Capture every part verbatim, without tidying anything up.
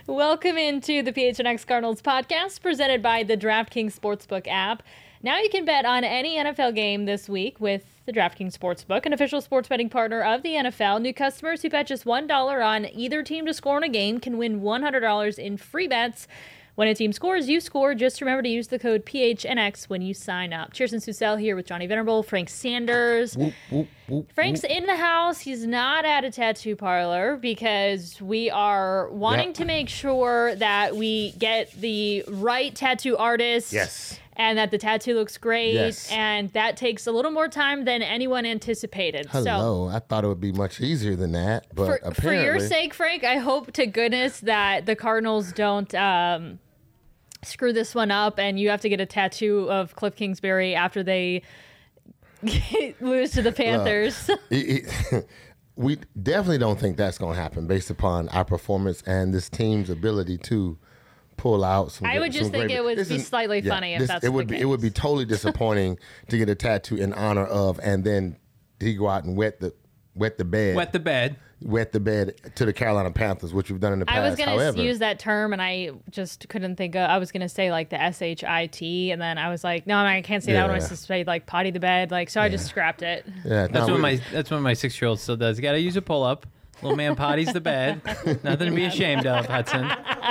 Welcome into the P H N X Cardinals podcast presented by the DraftKings Sportsbook app. Now you can bet on any N F L game this week with the DraftKings Sportsbook, an official sports betting partner of the N F L. New customers who bet just one dollar on either team to score in a game can win one hundred dollars in free bets. When a team scores, you score. Just remember to use the code P H N X when you sign up. Cheerson Susel here with Johnny Venerable, Frank Sanders. Whoop, whoop, whoop, Frank's whoop. in the house. He's not at a tattoo parlor because we are wanting Yep. to make sure that we get the right tattoo artist. Yes. And that the tattoo looks great. Yes. And that takes a little more time than anyone anticipated. So Hello. I thought it would be much easier than that, but for, apparently... for your sake, Frank, I hope to goodness that the Cardinals don't um, screw this one up and you have to get a tattoo of Cliff Kingsbury after they lose to the Panthers. it, it, we definitely don't think that's going to happen based upon our performance and this team's ability to pull out some. I would some just think great- it would this be is- slightly yeah, funny if this- that's it the would be. case. It would be totally disappointing to get a tattoo in honor of, and then he go out and wet the wet the bed, Wet the bed. wet the bed to the Carolina Panthers, which we've done in the past. I was going However, to use that term and I just couldn't think of, I was going to say like the S H I T and then I was like, no, I can't say that. I want Yeah. to say like potty the bed. Like, so I just scrapped it. yeah, That's no, what we- my that's what my six year old still does. You gotta use a pull up. Little man potties the bed. Nothing to be ashamed of, Hudson.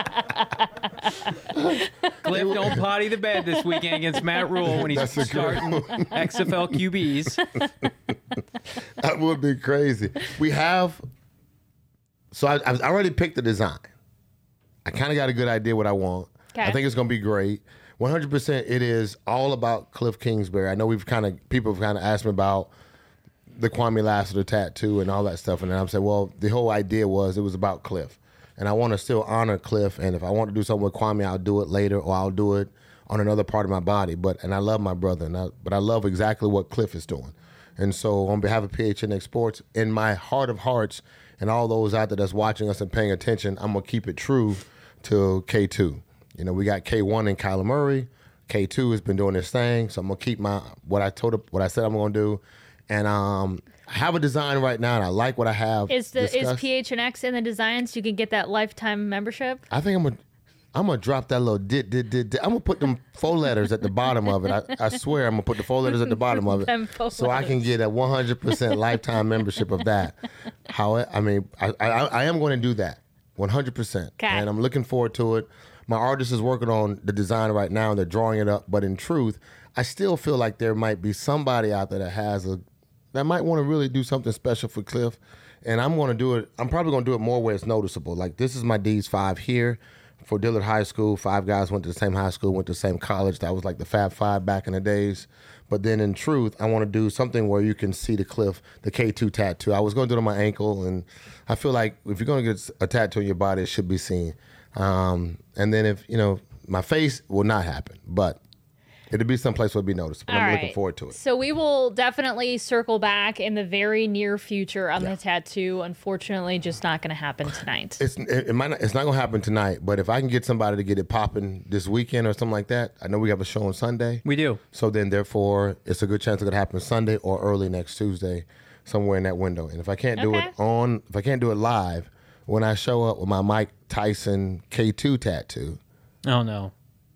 Cliff, don't potty the bed this weekend against Matt Rule when he's That's a good starting X F L Q Bs. That would be crazy. We have. So I, I've already picked the design. I kind of got a good idea what I want. Okay. I think it's going to be great. one hundred percent it is all about Cliff Kingsbury. I know we've kind of, people have kind of asked me about the Kwame Lassiter tattoo and all that stuff. And then I'm saying, well, the whole idea was it was about Cliff. And I want to still honor Cliff. And if I want to do something with Kwame, I'll do it later or I'll do it on another part of my body. But and I love my brother, and I, but I love exactly what Cliff is doing. And so on behalf of P H N X Sports, in my heart of hearts, and all those out there that's watching us and paying attention, I'm going to keep it true to K two. You know, we got K one and Kyler Murray. K two has been doing his thing. So I'm going to keep my what I told what I said I'm going to do. And um, I have a design right now, and I like what I have. Is the is discussed. P H N X in the designs? You can get that lifetime membership. I think I'm gonna I'm gonna drop that little did did did. did. I'm gonna put them four letters at the bottom of it. I, I swear I'm gonna put the four letters at the bottom of Them it, four so I can get a one hundred percent lifetime membership of that. How I mean, I I, I am going to do that one hundred percent, Okay. and I'm looking forward to it. My artist is working on the design right now, and they're drawing it up. But in truth, I still feel like there might be somebody out there that has a that might want to really do something special for Cliff. And I'm going to do it. I'm probably going to do it more where it's noticeable. Like, this is my D's five here for Dillard High School. Five guys went to the same high school, went to the same college. That was like the Fab Five back in the days. But then in truth, I want to do something where you can see the Cliff, the K two tattoo. I was going to do it on my ankle. And I feel like if you're going to get a tattoo on your body, it should be seen. Um, and then if, you know, my face will not happen. But it'll be someplace where it'll be noticeable. All I'm right. looking forward to it. So we will definitely circle back in the very near future on the tattoo. Unfortunately, just not going to happen tonight. It's it, it might not, it's not gonna happen tonight, but if I can get somebody to get it popping this weekend or something like that, I know we have a show on Sunday. We do. So then, therefore, it's a good chance it could happen Sunday or early next Tuesday, somewhere in that window. And if I can't do Okay. it on, if I can't do it live, when I show up with my Mike Tyson K two tattoo, Oh no.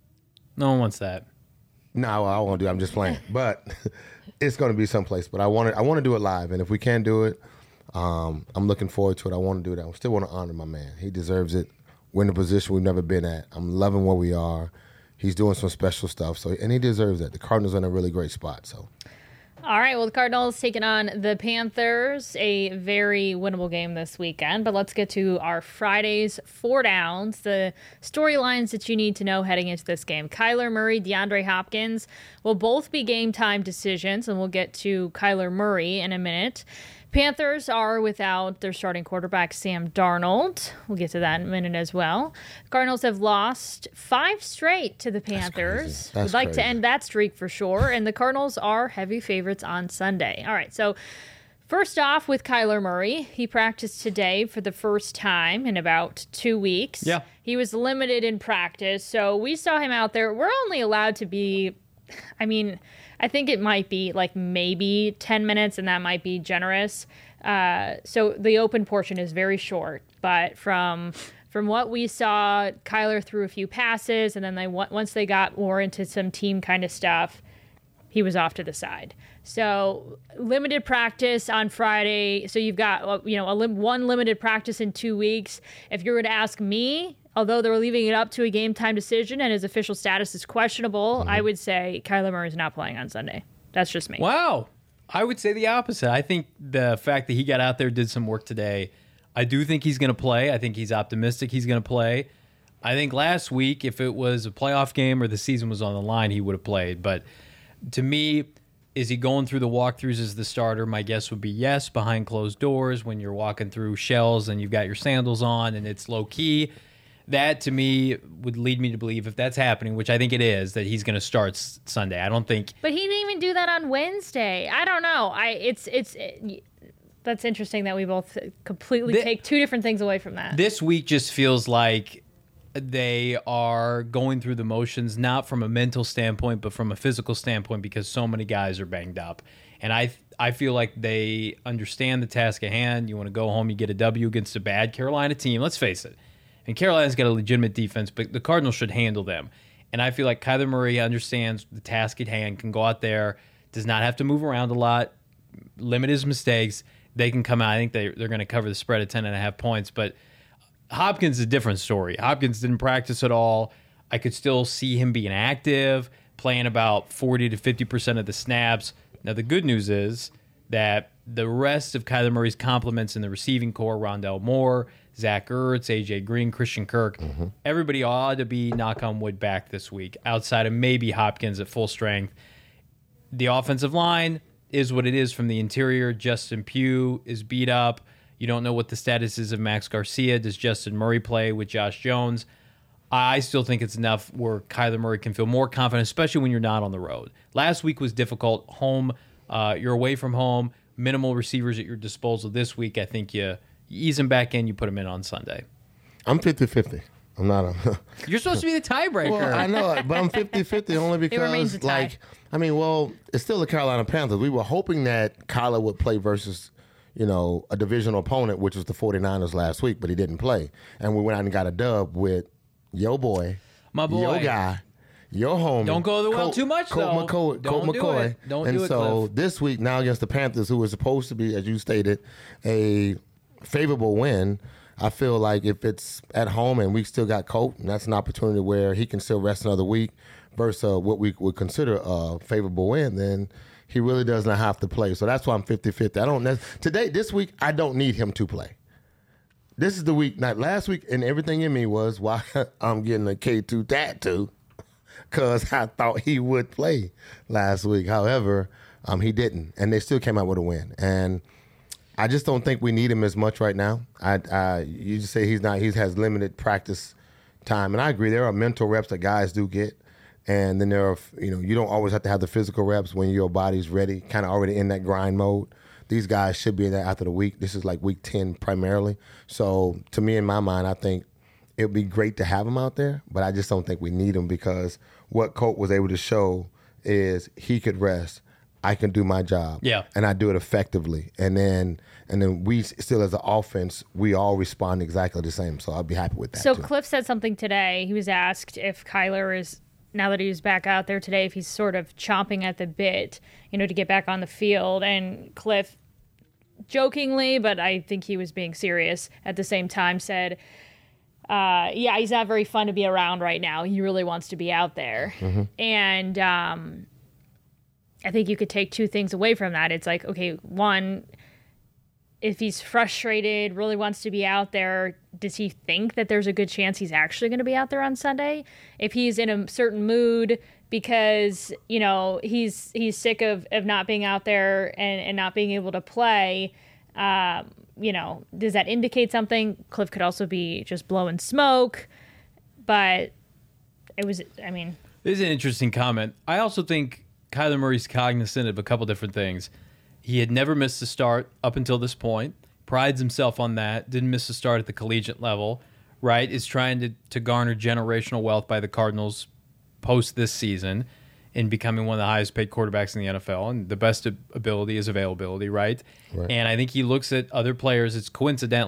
No one wants that. no, I won't do it. I'm just playing. But it's going to be someplace. But I want to, I want to do it live. And if we can do it, um, I'm looking forward to it. I want to do that. I still want to honor my man. He deserves it. We're in a position we've never been at. I'm loving where we are. He's doing some special stuff. So, and he deserves that. The Cardinals are in a really great spot. So, All right, well, the Cardinals taking on the Panthers, a very winnable game this weekend. But let's get to our Friday's four downs, the storylines that you need to know heading into this game. Kyler Murray, DeAndre Hopkins will both be game time decisions, and we'll get to Kyler Murray in a minute. Panthers are without their starting quarterback, Sam Darnold. We'll get to that in a minute as well. Cardinals have lost five straight to the Panthers. crazy. That's We'd like crazy. to end that streak for sure. And the Cardinals are heavy favorites on Sunday. All right, so first off with Kyler Murray, he practiced today for the first time in about two weeks. Yeah. He was limited in practice, so we saw him out there. We're only allowed to be, I mean, I think it might be like maybe ten minutes, and that might be generous. Uh, so the open portion is very short, but from from what we saw, Kyler threw a few passes, and then they once they got more into some team kind of stuff, he was off to the side. So limited practice on Friday. So you've got, you know, a lim- one limited practice in two weeks. If you were to ask me, although they're leaving it up to a game time decision and his official status is questionable, mm-hmm. I would say Kyler Murray is not playing on Sunday. That's just me. Wow. I would say the opposite. I think the fact that he got out there, did some work today, I do think he's going to play. I think he's optimistic he's going to play. I think last week, if it was a playoff game or the season was on the line, he would have played. But to me, is he going through the walkthroughs as the starter? My guess would be yes, behind closed doors when you're walking through shells and you've got your sandals on and it's low key. That to me would lead me to believe if that's happening, which I think it is, that he's going to start s- Sunday. I don't think. But he didn't even do that on Wednesday. I don't know. I it's it's it, that's interesting that we both completely the, take two different things away from that. This week just feels like they are going through the motions, not from a mental standpoint, but from a physical standpoint, because so many guys are banged up. And I I feel like they understand the task at hand. You want to go home, you get a W against a bad Carolina team. Let's face it. And Carolina's got a legitimate defense, but the Cardinals should handle them. And I feel like Kyler Murray understands the task at hand, can go out there, does not have to move around a lot, limit his mistakes. They can come out. I think they, they're going to cover the spread at ten and a half points. But Hopkins is a different story. Hopkins didn't practice at all. I could still see him being active, playing about forty to fifty percent of the snaps. Now, the good news is that the rest of Kyler Murray's compliments in the receiving core, Rondell Moore, Zach Ertz, A J Green, Christian Kirk, mm-hmm. everybody ought to be, knock on wood, back this week, outside of maybe Hopkins at full strength. The offensive line is what it is from the interior. Justin Pugh is beat up. You don't know what the status is of Max Garcia. Does Justin Murray play with Josh Jones? I still think it's enough where Kyler Murray can feel more confident, especially when you're not on the road. Last week was difficult. Home, uh, you're away from home, minimal receivers at your disposal. This week, I think you, you ease him back in, you put him in on Sunday. I'm fifty-fifty. I'm not a... You're supposed to be the tiebreaker. Well, I know, but I'm fifty-fifty only because, like, I mean, well, it's still the Carolina Panthers. We were hoping that Kyler would play versus, you know, a divisional opponent, which was the 49ers last week, but he didn't play. And we went out and got a dub with yo boy, my boy, yo guy, your homie. Don't go the well Colt, too much, Colt though. McCoy, Don't Colt do McCoy. it. Don't and do it, so Cliff. this week, now against the Panthers, who was supposed to be, as you stated, a favorable win, I feel like if it's at home and we still got Colt, and that's an opportunity where he can still rest another week versus uh, what we would consider a favorable win, then he really does not have to play. So that's why I'm fifty-fifty. I don't ne- today, this week, I don't need him to play. This is the week, not last week, and everything in me was why I'm getting a K two tattoo, because I thought he would play last week. However, um, he didn't, and they still came out with a win. And I just don't think we need him as much right now. I, I you just say he's not. He has limited practice time, and I agree. There are mental reps that guys do get, and then there are, you know, you don't always have to have the physical reps when your body's ready, kind of already in that grind mode. These guys should be in there after the week. This is like week ten primarily. So to me, in my mind, I think it would be great to have him out there, but I just don't think we need him because what Colt was able to show is he could rest. I can do my job. Yeah. And I do it effectively. And then and then we still as an offense, we all respond exactly the same. So I'll be happy with that. So too. Cliff said something today. He was asked if Kyler is, now that he's back out there today, if he's sort of chomping at the bit, you know, to get back on the field. And Cliff, jokingly, but I think he was being serious at the same time, said, uh, yeah, he's not very fun to be around right now. He really wants to be out there. Mm-hmm. And um, I think you could take two things away from that. It's like, okay, one, if he's frustrated, really wants to be out there, does he think that there's a good chance he's actually going to be out there on Sunday? If he's in a certain mood because, you know, he's he's sick of, of not being out there and, and not being able to play, um, you know, does that indicate something? Cliff could also be just blowing smoke, but it was, I mean. This is an interesting comment. I also think Kyler Murray's cognizant of a couple different things. He had never missed a start up until this point, prides himself on that, didn't miss a start at the collegiate level, right? Is trying to, to garner generational wealth by the Cardinals post this season in becoming one of the highest paid quarterbacks in the N F L. And the best ability is availability, right? right? And I think he looks at other players. It's coincidentally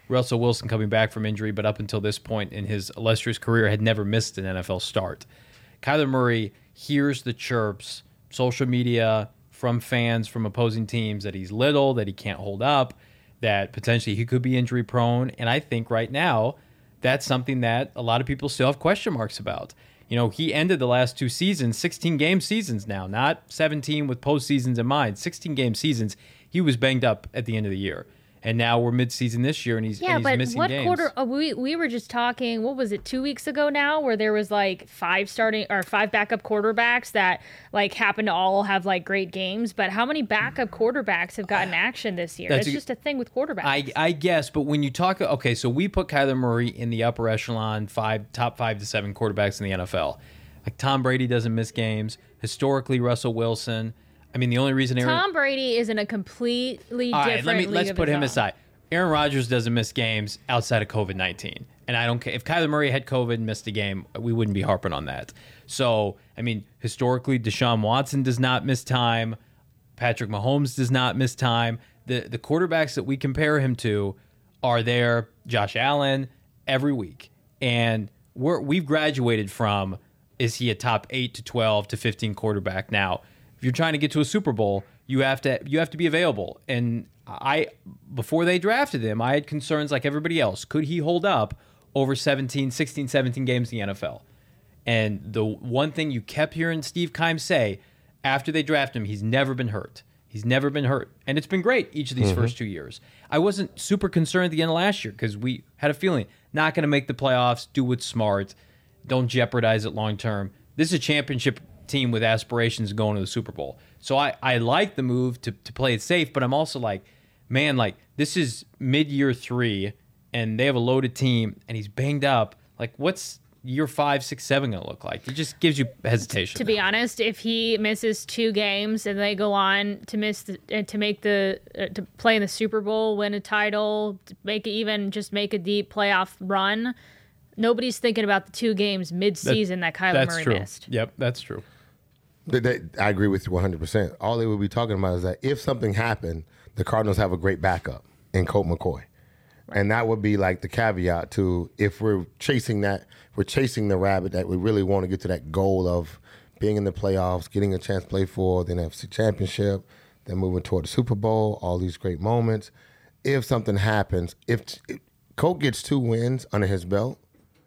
Russell Wilson coming back from injury, but up until this point in his illustrious career had never missed an N F L start. Kyler Murray hears the chirps, social media, from fans from opposing teams that he's little, that he can't hold up, that potentially he could be injury prone. And I think right now that's something that a lot of people still have question marks about. You know, he ended the last two seasons, sixteen game seasons now, not seventeen with postseasons in mind, sixteen game seasons. He was banged up at the end of the year. And now we're mid-season this year, and he's, yeah, and he's but missing what games. quarter? Oh, we we were just talking. What was it? Two weeks ago now, where there was like five starting or five backup quarterbacks that like happened to all have like great games. But how many backup quarterbacks have gotten action this year? That's It's a- just a thing with quarterbacks. I, I guess, but when you talk, okay, so we put Kyler Murray in the upper echelon, five top five to seven quarterbacks in the N F L. Like Tom Brady doesn't miss games. Historically, Russell Wilson. I mean, the only reason Aaron. Tom Brady is in a completely All different right, let me league let's of put his him own. aside. Aaron Rodgers doesn't miss games outside of COVID nineteen, and I don't care if Kyler Murray had COVID and missed a game. We wouldn't be harping on that. So, I mean, historically, Deshaun Watson does not miss time. Patrick Mahomes does not miss time. The the quarterbacks that we compare him to are there. Josh Allen every week, and we're we've graduated from is he a top eight to twelve to fifteen quarterback now? If you're trying to get to a Super Bowl, you have to you have to be available. And I before they drafted him, I had concerns like everybody else. Could he hold up over seventeen, sixteen, seventeen games in the N F L? And the one thing you kept hearing Steve Keim say after they drafted him, he's never been hurt. He's never been hurt. And it's been great each of these mm-hmm. first two years. I wasn't super concerned at the end of last year because we had a feeling not going to make the playoffs, do what's smart, don't jeopardize it long term. This is a championship team with aspirations of going to the Super Bowl. So I, I like the move to, to play it safe, but I'm also like, man, like this is mid-year three, and they have a loaded team, and he's banged up. Like, what's year five, six, seven going to look like? It just gives you hesitation. To be honest, if he misses two games and they go on to miss the, uh, to make the uh, to play in the Super Bowl, win a title, to make it even just make a deep playoff run, nobody's thinking about the two games mid-season that, that Kyler that's Murray true. missed. Yep, that's true. They, they, I agree with you one hundred percent. All they would be talking about is that if something happened, the Cardinals have a great backup in Colt McCoy. Right. And that would be like the caveat to if we're chasing that, we're chasing the rabbit that we really want to get to that goal of being in the playoffs, getting a chance to play for the N F C Championship, then moving toward the Super Bowl, all these great moments. If something happens, if, if Colt gets two wins under his belt,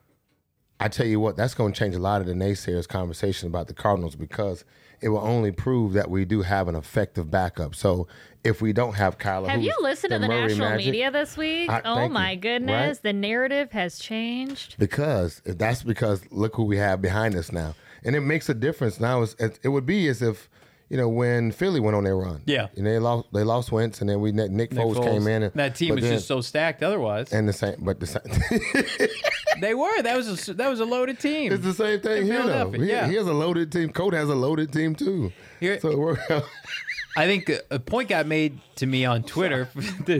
I tell you what, that's going to change a lot of the naysayers' conversation about the Cardinals because it will only prove that we do have an effective backup. So if we don't have Kyler, have you listened to the Murray national Magic, media this week? I, oh my you, goodness, right? The narrative has changed. Because that's because look who we have behind us now, and it makes a difference now. It's, it would be as if you know when Philly went on their run, yeah, and they lost they lost Wentz, and then we Nick, Nick, Nick Foles, Foles came in, and that team was then, just so stacked. Otherwise, and the same, but the same. They were. That was a that was a loaded team. It's the same thing here, though. He, yeah. he has a loaded team. Colt has a loaded team too. Here, so it worked out. I think a point got made to me on Twitter.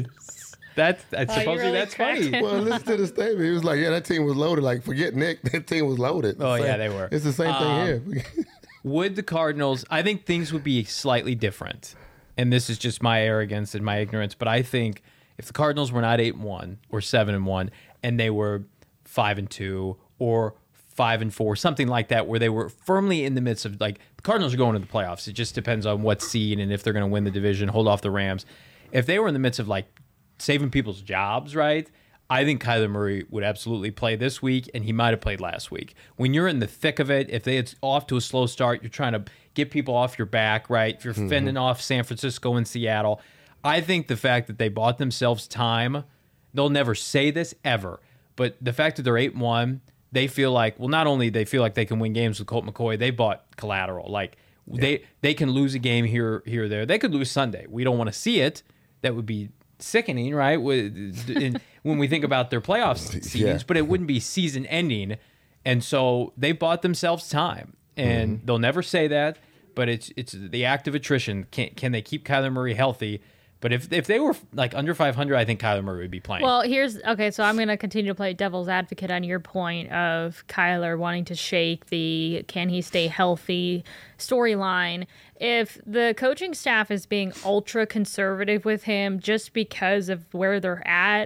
That's I Oh, supposedly really that's cracked funny. it. Well, listen to the statement. He was like, "Yeah, that team was loaded. Like, forget Nick. That team was loaded." Oh Same- yeah, they were. It's the same Um, thing here. Would the Cardinals? I think things would be slightly different, and this is just my arrogance and my ignorance. But I think if the Cardinals were not eight and one or seven and one, and they were five and two or five and four, something like that, where they were firmly in the midst of like the Cardinals are going to the playoffs. It just depends on what seed and if they're going to win the division, hold off the Rams. If they were in the midst of like saving people's jobs, right? I think Kyler Murray would absolutely play this week, and he might have played last week. When you're in the thick of it, if they it's off to a slow start, you're trying to get people off your back, right? If you're mm-hmm. fending off San Francisco and Seattle, I think the fact that they bought themselves time, they'll never say this ever, but the fact that they're eight and one, they feel like, well, not only they feel like they can win games with Colt McCoy, they bought collateral. Like yeah. they they can lose a game here, here, or there. They could lose Sunday. We don't want to see it. That would be sickening, right? In, when we think about their playoff seedings, yeah. but it wouldn't be season ending. And so they bought themselves time, and mm-hmm. they'll never say that, but it's it's the act of attrition. Can can they keep Kyler Murray healthy? But if if they were like under five hundred, I think Kyler Murray would be playing. Well, here's okay. So I'm going to continue to play devil's advocate on your point of Kyler wanting to shake the can he stay healthy storyline. If the coaching staff is being ultra conservative with him just because of where they're at,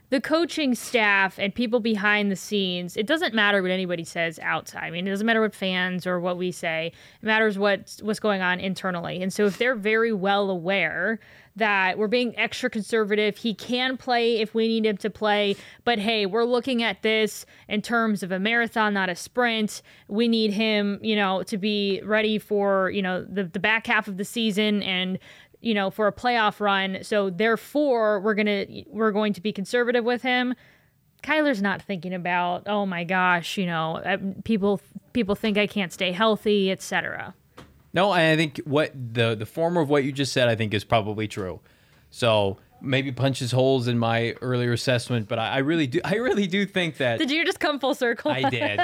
the coaching staff and people behind the scenes, it doesn't matter what anybody says outside. I mean, it doesn't matter what fans or what we say. It matters what's, what's going on internally. And so if they're very well aware that we're being extra conservative, he can play if we need him to play, but hey, we're looking at this in terms of a marathon, not a sprint. We need him, you know, to be ready for, you know, the, the back half of the season and you know, for a playoff run. So therefore, we're gonna we're going to be conservative with him. Kyler's not thinking about, oh my gosh, you know, people people think I can't stay healthy, et cetera. No, I think what the the former of what you just said, I think is probably true. So maybe punches holes in my earlier assessment, but I, I really do I really do think that. Did you just come full circle? I did.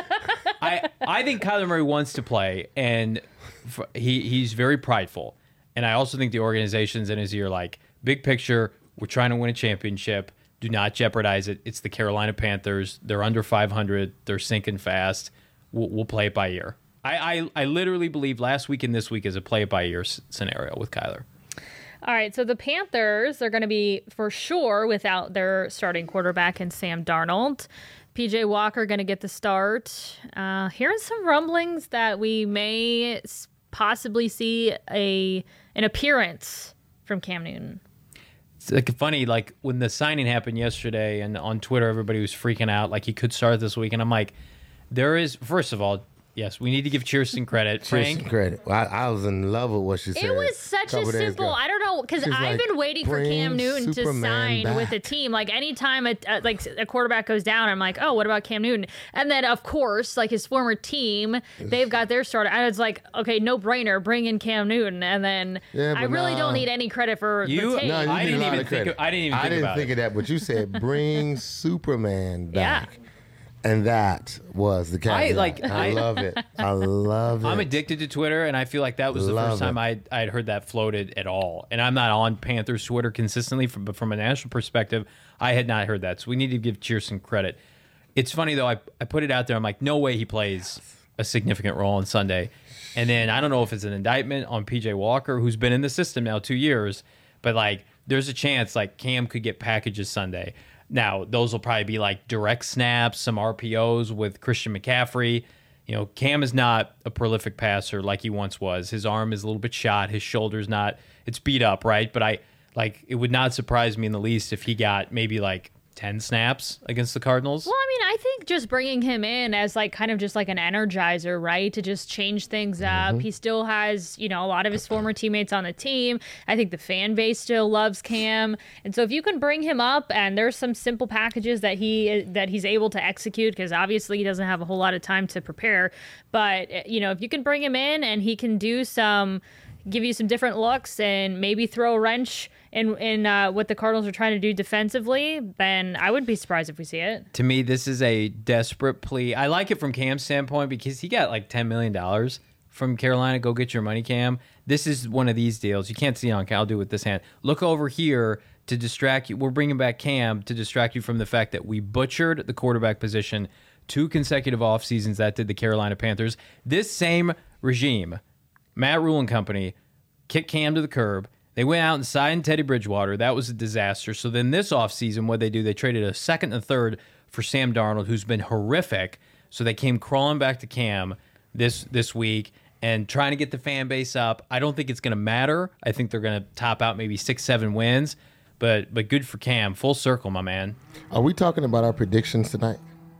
I I think Kyler Murray wants to play, and for, he he's very prideful. And I also think the organization's in his ear, like, big picture, we're trying to win a championship. Do not jeopardize it. It's the Carolina Panthers. They're under five hundred. They're sinking fast. We'll, we'll play it by ear. I, I, I literally believe last week and this week is a play it by ear s- scenario with Kyler. All right, so the Panthers are going to be, for sure, without their starting quarterback in Sam Darnold. P J Walker going to get the start. Uh, hearing some rumblings that we may possibly see a an appearance from Cam Newton. It's like funny, like when the signing happened yesterday, and on Twitter everybody was freaking out, like he could start this week, and I'm like, there is, first of all, yes, we need to give Chierstin credit. Chierstin Frank, credit. I, I was in love with what she said. It was such a simple. I don't know, because I've like, been waiting for Cam Newton to sign back. with a team. Like anytime a, a like a quarterback goes down, I'm like, oh, what about Cam Newton? And then of course, like his former team, they've got their starter. I was like, okay, no brainer, bring in Cam Newton. And then Yeah, I but really nah. don't need any credit for You- the tape. No, you I need didn't a lot even of think credit. of- I didn't even I think didn't about think it. of that, but you said bring Superman Yeah. back. And that was the caveat. I, like, I I- love it. I love it. I'm addicted to Twitter, and I feel like that was the Love first time it. I I had heard that floated at all. And I'm not on Panthers Twitter consistently, from, but from a national perspective, I had not heard that. So we need to give Chierstin credit. It's funny, though, I, I put it out there. I'm like, no way he plays a significant role on Sunday. And then I don't know if it's an indictment on P J Walker, who's been in the system now two years, but like there's a chance like Cam could get packages Sunday. Now, those will probably be like direct snaps, some R P Os with Christian McCaffrey. You know, Cam is not a prolific passer like he once was. His arm is a little bit shot. His shoulder's not, it's beat up, right? But I, like, it would not surprise me in the least if he got maybe like ten snaps against the Cardinals. Well, I mean, I think just bringing him in as like kind of just like an energizer, right? To just change things up. Mm-hmm. He still has, you know, a lot of his former teammates on the team. I think the fan base still loves Cam. And so if you can bring him up and there's some simple packages that he that he's able to execute, because obviously he doesn't have a whole lot of time to prepare, but you know, if you can bring him in and he can do some give you some different looks and maybe throw a wrench in in uh, what the Cardinals are trying to do defensively, then I wouldn't be surprised if we see it. To me, this is a desperate plea. I like it from Cam's standpoint because he got like ten million dollars from Carolina. Go get your money, Cam. This is one of these deals. You can't see on. I'll do it with this hand. Look over here to distract you. We're bringing back Cam to distract you from the fact that we butchered the quarterback position two consecutive off seasons. That did the Carolina Panthers. This same regime, Matt Rule and company, kicked Cam to the curb. They went out and signed Teddy Bridgewater. That was a disaster. So then this offseason, what they do, they traded a second and a third for Sam Darnold, who's been horrific. So they came crawling back to Cam this this week and trying to get the fan base up. I don't think it's going to matter. I think they're going to top out maybe six, seven wins. But but good for Cam. Full circle, my man. Are we talking about our predictions tonight?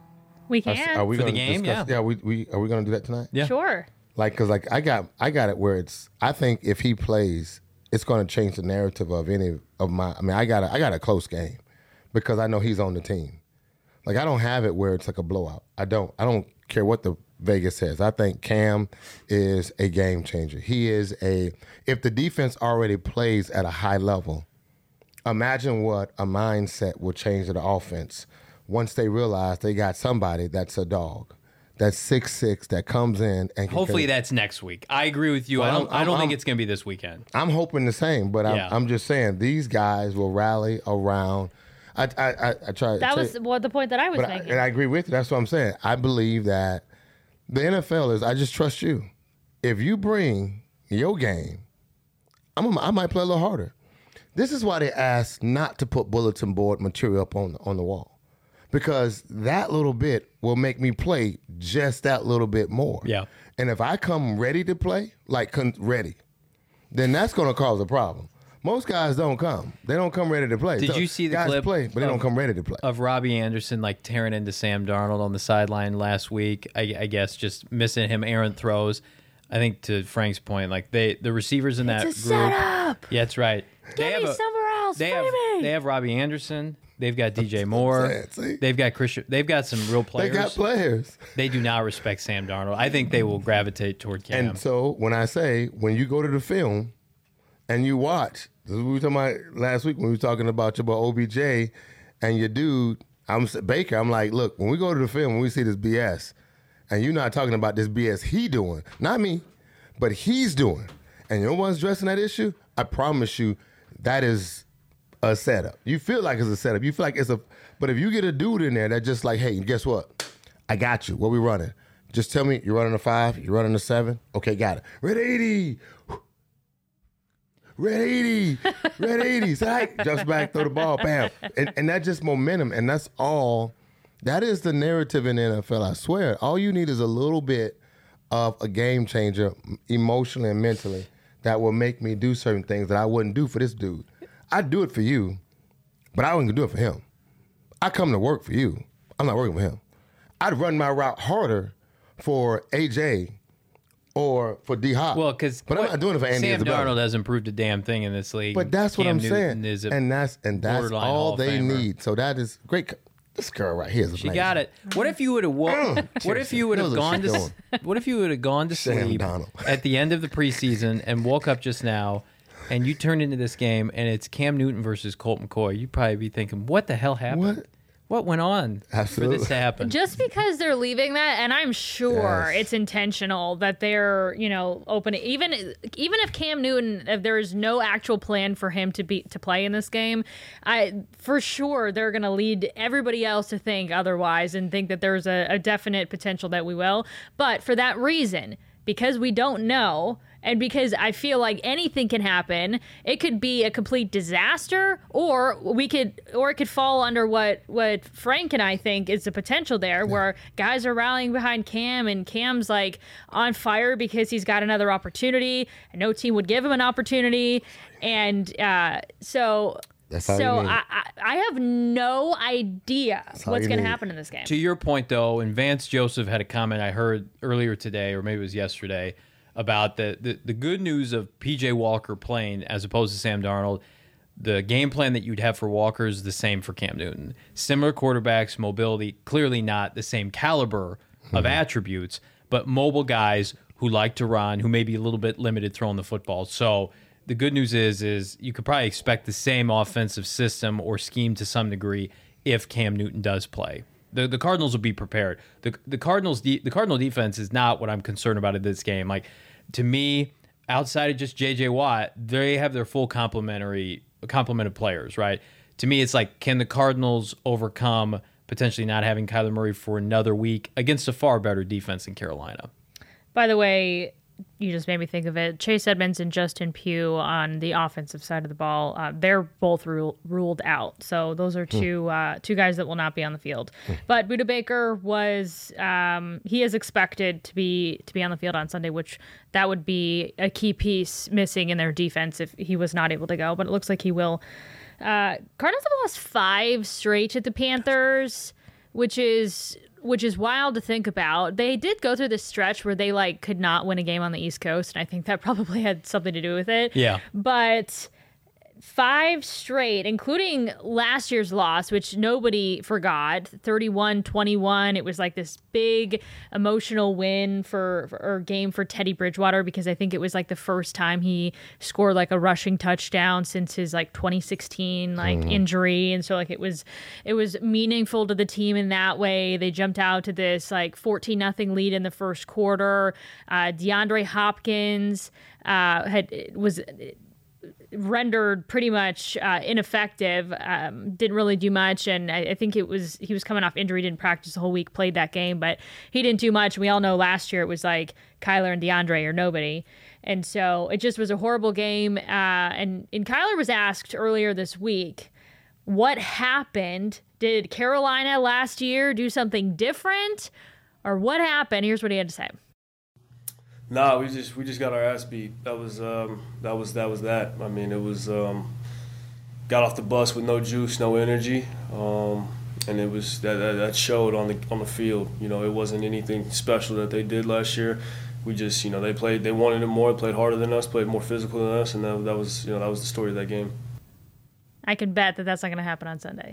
We Are, can. are we For the gonna game, discuss- yeah. Yeah. We, we are we going to do that tonight? Yeah. Sure. Like, cause like I got I got it where it's. I think if he plays, it's going to change the narrative of any of my. I mean, I got a, I got a close game because I know he's on the team. Like I don't have it where it's like a blowout. I don't. I don't care what the Vegas says. I think Cam is a game changer. He is a. If the defense already plays at a high level, imagine what a mindset will change to the offense once they realize they got somebody that's a dog. That's six six that comes in and can, Hopefully that's next week. I agree with you. Well, I don't. I'm- I don't I'm- think I'm- it's going to be this weekend. I'm hoping the same, but I'm, Yeah. I'm just saying these guys will rally around. I I I, I try. That try- was what the point that I was but I, making. and I agree with you. That's what I'm saying. I believe that the N F L is. I just trust you. If you bring your game, I'm. I might play a little harder. This is why they ask not to put bulletin board material up on on the wall, because that little bit will make me play just that little bit more. Yeah. And if I come ready to play, like con- ready, then that's going to cause a problem. Most guys don't come. They don't come ready to play. Did So you see the guys clip play, but they of- don't come ready to play. Of Robbie Anderson like tearing into Sam Darnold on the sideline last week? I, I guess just missing him errant throws. I think to Frank's point, like they the receivers in that It's a group. setup. Yeah, that's right. Get me somewhere else. They Free have me. they have Robbie Anderson. They've got D J Moore. saying, see? They've got Christian. They've got some real They players. got players. They do not respect Sam Darnold. I think they will gravitate toward Cam. And so when I say, when you go to the film and you watch, this is what we were talking about last week when we were talking about your boy O B J and your dude, I'm Baker, I'm like, look, when we go to the film, when we see this B S, and you're not talking about this B S he doing, not me, but he's doing, and you're the one's addressing that issue, I promise you that is a setup. You feel like it's a setup. You feel like it's a, but if you get a dude in there that just like, hey, guess what? I got you. What we running? Just tell me you're running a five, you're running a seven. Okay, got it. Red eighty. Red eighty. Red eighty. Psych. Jumps back, throw the ball, bam. And, and that's just momentum. And that's all. That is the narrative in the N F L, I swear. All you need is a little bit of a game changer emotionally and mentally that will make me do certain things that I wouldn't do for this dude. I'd do it for you, but I wouldn't do it for him. I come to work for you. I'm not working for him. I'd run my route harder for A J or for D Hop. well, because but I'm not doing it for Andy Sam Isabella. Darnold hasn't proved a damn thing in this league. But that's what Cam I'm Newton saying, is a and that's and that's borderline Hall all of they Famer. need. So that is great. This girl right here is amazing. She got it. What if you would have? Wo- what if you would have Knows what gone she's to? doing. What if you would have gone to Sam sleep Darnold. at the end of the preseason and woke up just now, and you turned into this game and it's Cam Newton versus Colt McCoy? You'd probably be thinking, "What the hell happened? What? What went on for Absolutely. this to happen?" Just because they're leaving that, and I'm sure Yes. it's intentional that they're, you know, opening. Even even if Cam Newton, if there is no actual plan for him to be to play in this game, I for sure they're going to lead everybody else to think otherwise and think that there's a, a definite potential that we will. But for that reason, because we don't know, and because I feel like anything can happen, it could be a complete disaster, or we could, or it could fall under what what Frank and I think is the potential there, where guys are rallying behind Cam, and Cam's like on fire because he's got another opportunity, and no team would give him an opportunity, and uh, so. That's all so you need. I, I I have no idea all what's you going to need. happen in this game. To your point, though, and Vance Joseph had a comment I heard earlier today, or maybe it was yesterday, about the, the, the good news of P J Walker playing as opposed to Sam Darnold. The game plan that you'd have for Walker is the same for Cam Newton. Similar quarterbacks, mobility, clearly not the same caliber of attributes, but mobile guys who like to run, who may be a little bit limited throwing the football. So the good news is, is you could probably expect the same offensive system or scheme to some degree if Cam Newton does play. The the Cardinals will be prepared. The the Cardinals de- the Cardinal defense is not what I'm concerned about in this game. Like, to me, outside of just J J Watt, they have their full complementary complement of players, right? To me, it's like, can the Cardinals overcome potentially not having Kyler Murray for another week against a far better defense in Carolina? By the way, you just made me think of it. Chase Edmonds and Justin Pugh on the offensive side of the ball, uh, they're both rule, ruled out. So those are two uh, two guys that will not be on the field. But Budda Baker was um, he is expected to be to be on the field on Sunday, which that would be a key piece missing in their defense if he was not able to go. But it looks like he will. Uh, Cardinals have lost five straight to the Panthers, which is. Which is wild to think about. They did go through this stretch where they like could not win a game on the East Coast, and I think that probably had something to do with it. Yeah. But five straight, including last year's loss, which nobody forgot, thirty-one twenty-one. It was like this big emotional win for, for or game for Teddy Bridgewater, because I think it was like the first time he scored like a rushing touchdown since his like twenty sixteen like Mm-hmm. injury. And so like it was it was meaningful to the team in that way. They jumped out to this like fourteen nothing lead in the first quarter. Uh, DeAndre Hopkins uh, had was rendered pretty much uh, ineffective, um, didn't really do much, and I, I think it was he was coming off injury, didn't practice the whole week, played that game, but he didn't do much. We all know last year it was like Kyler and DeAndre or nobody, And so it just was a horrible game. Uh, and, and Kyler was asked earlier this week, what happened? Did Carolina last year do something different? Or what happened? Here's what he had to say. Nah, we just we just got our ass beat. That was um, that was that was that. I mean, it was um, got off the bus with no juice, no energy, um, and it was that, that that showed on the on the field. You know, it wasn't anything special that they did last year. We just, you know, they played, they wanted it more, played harder than us, played more physical than us, and that, that was, you know, that was the story of that game. I can bet that that's not going to happen on Sunday.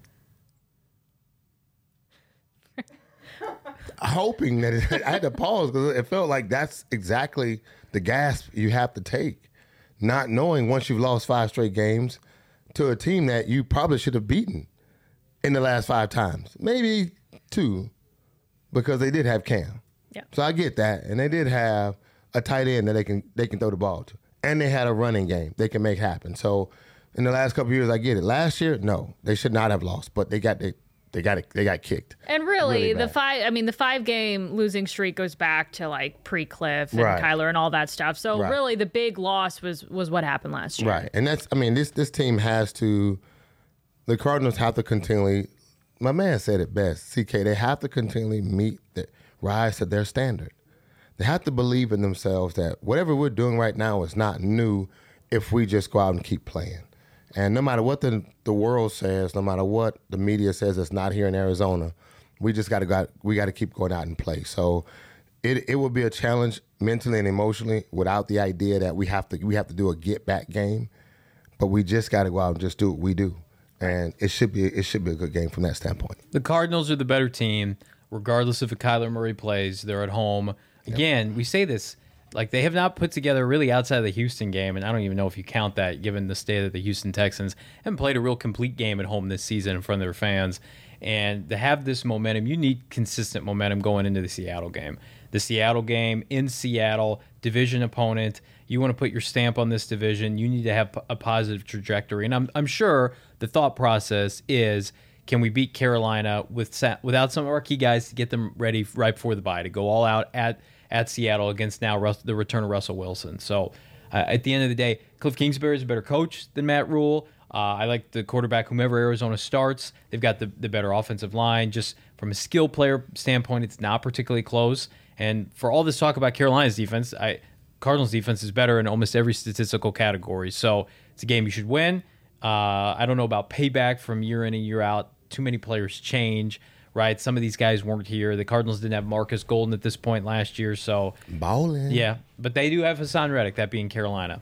Hoping that it, I had to pause because it felt like that's exactly the gasp you have to take, not knowing once you've lost five straight games to a team that you probably should have beaten in the last five times, maybe two, because they did have Cam. Yeah. So I get that, and they did have a tight end that they can they can throw the ball to, and they had a running game they can make happen. So in the last couple of years, I get it. Last year, no, they should not have lost, but they got they they got it, they got kicked. And really, really the bad. five I mean the five game losing streak goes back to like pre-Cliff and Right. Kyler and all that stuff. So Right. really, the big loss was was what happened last year. Right, and that's I mean this this team has to. The Cardinals have to continually. My man said it best. C K, they have to continually meet the rise to their standard. They have to believe in themselves that whatever we're doing right now is not new if we just go out and keep playing. And no matter what the the world says, no matter what the media says it's not here in Arizona, we just got to go. We got to keep going out and play. So it it will be a challenge mentally and emotionally without the idea that we have to we have to do a get back game, but we just got to go out and just do what we do. And it should be it should be a good game from that standpoint. The Cardinals are the better team, regardless if a Kyler Murray plays. They're at home. Again, yep. We say this, like they have not put together really outside of the Houston game, and I don't even know if you count that given the state of the Houston Texans, haven't played a real complete game at home this season in front of their fans. And to have this momentum, you need consistent momentum going into the Seattle game. The Seattle game in Seattle, division opponent. You want to put your stamp on this division. You need to have a positive trajectory. And I'm I'm sure the thought process is, can we beat Carolina with without some of our key guys to get them ready right before the bye to go all out at at Seattle against now Russ, the return of Russell Wilson. So uh, at the end of the day, Cliff Kingsbury is a better coach than Matt Rule. Uh, I like the quarterback, whomever Arizona starts. They've got the, the better offensive line. Just from a skill player standpoint, it's not particularly close. And for all this talk about Carolina's defense, I Cardinals' defense is better in almost every statistical category. So it's a game you should win. Uh, I don't know about payback from year in and year out. Too many players change, right? Some of these guys weren't here. The Cardinals didn't have Marcus Golden at this point last year. So Ballin'. Yeah, but they do have Hassan Reddick, that being Carolina.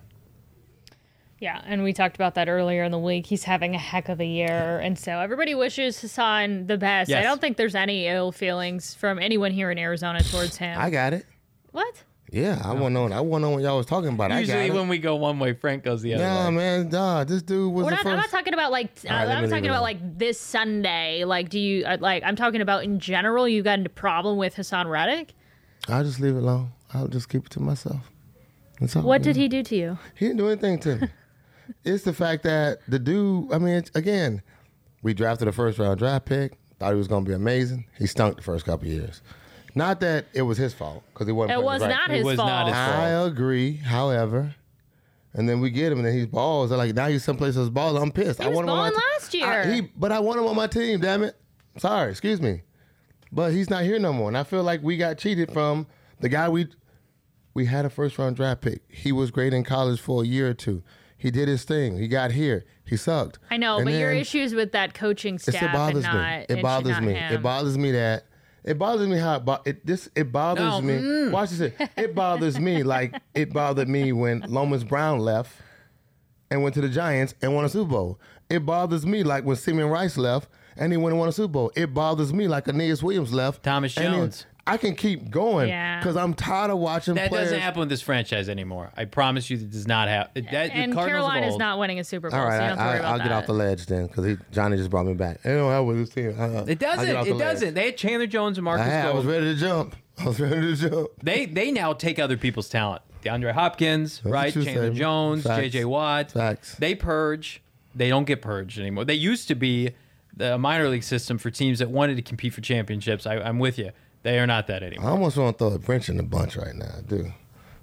Yeah, and we talked about that earlier in the week. He's having a heck of a year, and so everybody wishes Hassan the best. Yes. I don't think there's any ill feelings from anyone here in Arizona towards him. I got it. What? Yeah, I want to know. I want to know what y'all was talking about. Usually I got when it. we go one way, Frank goes the other Nah, way. man, nah, this dude was We're the not, first. I'm not talking about like uh, All right, let I'm me talking leave it about alone. like this Sunday. Like, do you uh, like? I'm talking about in general. You got into problem with Hassan Reddick? I'll just leave it alone. I'll just keep it to myself. That's all. What did he do to you? He didn't do anything to me. It's the fact that the dude, I mean, it's, again, we drafted a first round draft pick, thought he was going to be amazing. He stunk the first couple of years. Not that it was his fault, because he wasn't It playing was right. not It his was fault. not his fault. I agree, however. And then we get him, and then he's balls. They're like, now he's someplace else balls. I'm pissed. He I was want him on my balling te- last year. I, he, but I want him on my team, damn it. Sorry, excuse me. But he's not here no more. And I feel like we got cheated from the guy we we had a first round draft pick. He was great in college for a year or two. He did his thing. He got here. He sucked. I know, And but your then- issues with that coaching It's, staff it bothers and not me. It and bothers not me. him. It bothers me that it bothers me how it, bo- it this it bothers No, me. mm. Watch this. It bothers me like it bothered me when Lomas Brown left and went to the Giants and won a Super Bowl. It bothers me like when Simeon Rice left and he went and won a Super Bowl. It bothers me like Aeneas Williams left. Thomas and then- Jones. I can keep going Yeah. because I'm tired of watching That players. doesn't happen with this franchise anymore. I promise you, that does not happen. That, and the Cardinals of Carolina's old- not winning a Super Bowl, All right, so you don't have to worry I, about I'll that. get off the ledge then because Johnny just brought me back. It don't help with this team. Uh, It I'll get doesn't. off the It ledge. doesn't. They had Chandler Jones and I, Marcus had, I was Golden. ready to jump. I was ready to jump. They they now take other people's talent. DeAndre Hopkins, what right? you Chandler say. Jones, Facts. J J Watt. Facts. They purge. They don't get purged anymore. They used to be the minor league system for teams that wanted to compete for championships. I, I'm with you. They are not that I anymore. almost want to throw a wrench in the bunch right now, dude.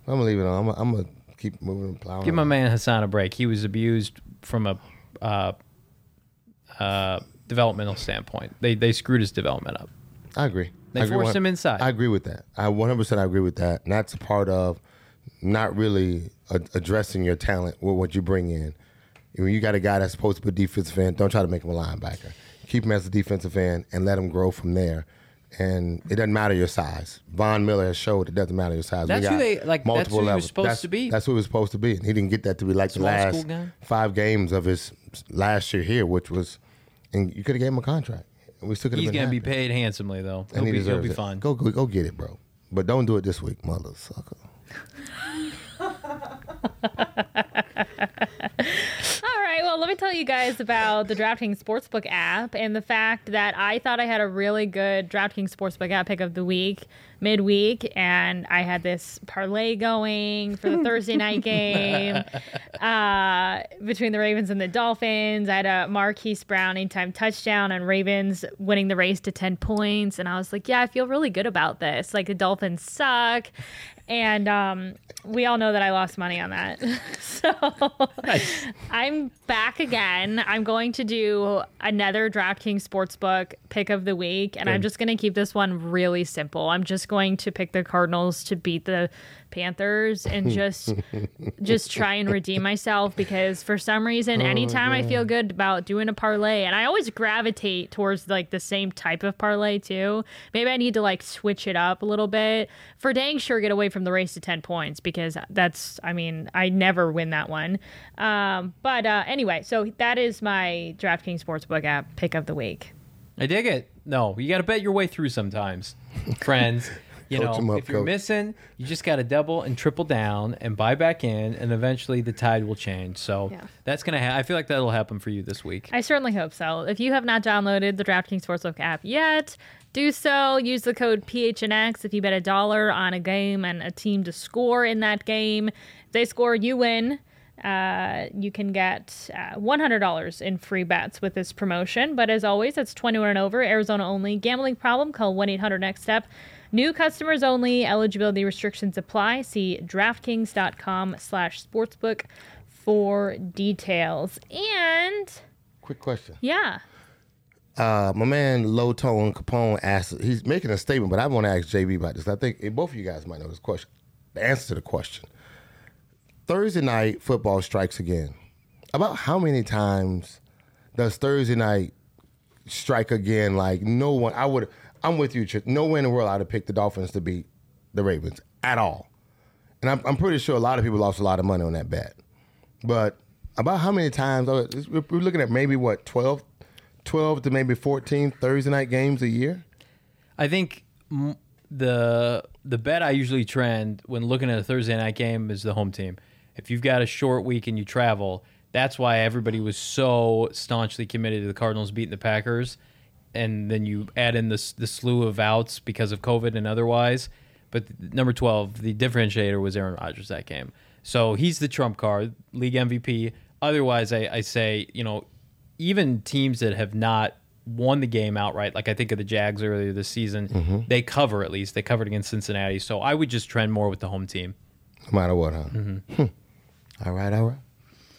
I'm gonna leave it on. I'm gonna, I'm gonna keep moving and plowing. Give my on. man Hassan a break. He was abused from a uh, uh, developmental standpoint. They they screwed his development up. I agree. They I agree forced one- him inside. I agree with that. I one hundred percent agree with that. And that's a part of not really a- addressing your talent with what you bring in. When you got a guy that's supposed to be a defensive end, don't try to make him a linebacker. Keep him as a defensive end and let him grow from there. And it doesn't matter your size. Von Miller has showed it doesn't matter your size. We That's who got they- like, that's who he was supposed that's, to be. That's who he was supposed to be. And he didn't get that to be like Small the last school guy? five games of his last year here, which was, and you could have gave him a contract. We still could have He's been going to be happy. paid handsomely, though. He'll And he be, he'll deserves be it. fine. Go, go, go get it, bro. But don't do it this week, mother sucker. All right, well, let me tell you guys about the DraftKings Sportsbook app and the fact that I thought I had a really good DraftKings Sportsbook app pick of the week, midweek, and I had this parlay going for the Thursday night game uh, between the Ravens and the Dolphins. I had a Marquise Brown anytime touchdown and Ravens winning the race to ten points, and I was like, yeah, I feel really good about this. Like, the Dolphins suck. And um, we all know that I lost money on that. So I'm back again. I'm going to do another DraftKings Sportsbook pick of the week. And I'm just going to keep this one really simple. I'm just going to pick the Cardinals to beat the Panthers and just just try and redeem myself, because for some reason, anytime I feel good about doing a parlay, and I always gravitate towards like the same type of parlay too. Maybe I need to like switch it up a little bit. For dang sure, get away from the race to ten points, because that's, I mean, I never win that one. Um, but uh, anyway, so that is my DraftKings Sportsbook app pick of the week. I dig it. No, you got to bet your way through sometimes, friends. You Coach 'em know, up, if you're coach. missing, you just got to double and triple down and buy back in, and eventually the tide will change. So Yeah. that's gonna. Ha- I feel like that'll happen for you this week. I certainly hope so. If you have not downloaded the DraftKings Sportsbook app yet, do so. Use the code P H N X if you bet a dollar on a game and a team to score in that game. If they score, you win. Uh, you can get uh, one hundred dollars in free bets with this promotion. But as always, it's twenty-one and over, Arizona only. Gambling problem? Call one eight hundred next step. New customers only. Eligibility restrictions apply. See DraftKings.com slash sportsbook for details. And Quick question. yeah. Uh, my man Low Tone Capone asked, he's making a statement, but I want to ask J B about this. I think eh, both of you guys might know this question. The answer to the question. Thursday night football strikes again. About how many times does Thursday night strike again? Like, no one, I would, I'm with you, Chip. No way in the world I'd have picked the Dolphins to beat the Ravens at all. And I'm, I'm pretty sure a lot of people lost a lot of money on that bet. But about how many times, oh, we're looking at maybe what, twelve, twelve to maybe fourteen Thursday night games a year? I think m- the the bet I usually trend when looking at a Thursday night game is the home team. If you've got a short week and you travel, that's why everybody was so staunchly committed to the Cardinals beating the Packers. And then you add in this the slew of outs because of COVID and otherwise. But number twelve, the differentiator was Aaron Rodgers that game. So he's the trump card, league M V P. Otherwise, I, I say, you know, even teams that have not won the game outright, like I think of the Jags earlier this season, Mm-hmm. they cover at least. They covered against Cincinnati. So I would just trend more with the home team. No matter what, huh? Mm-hmm. Hmm. All right, all right.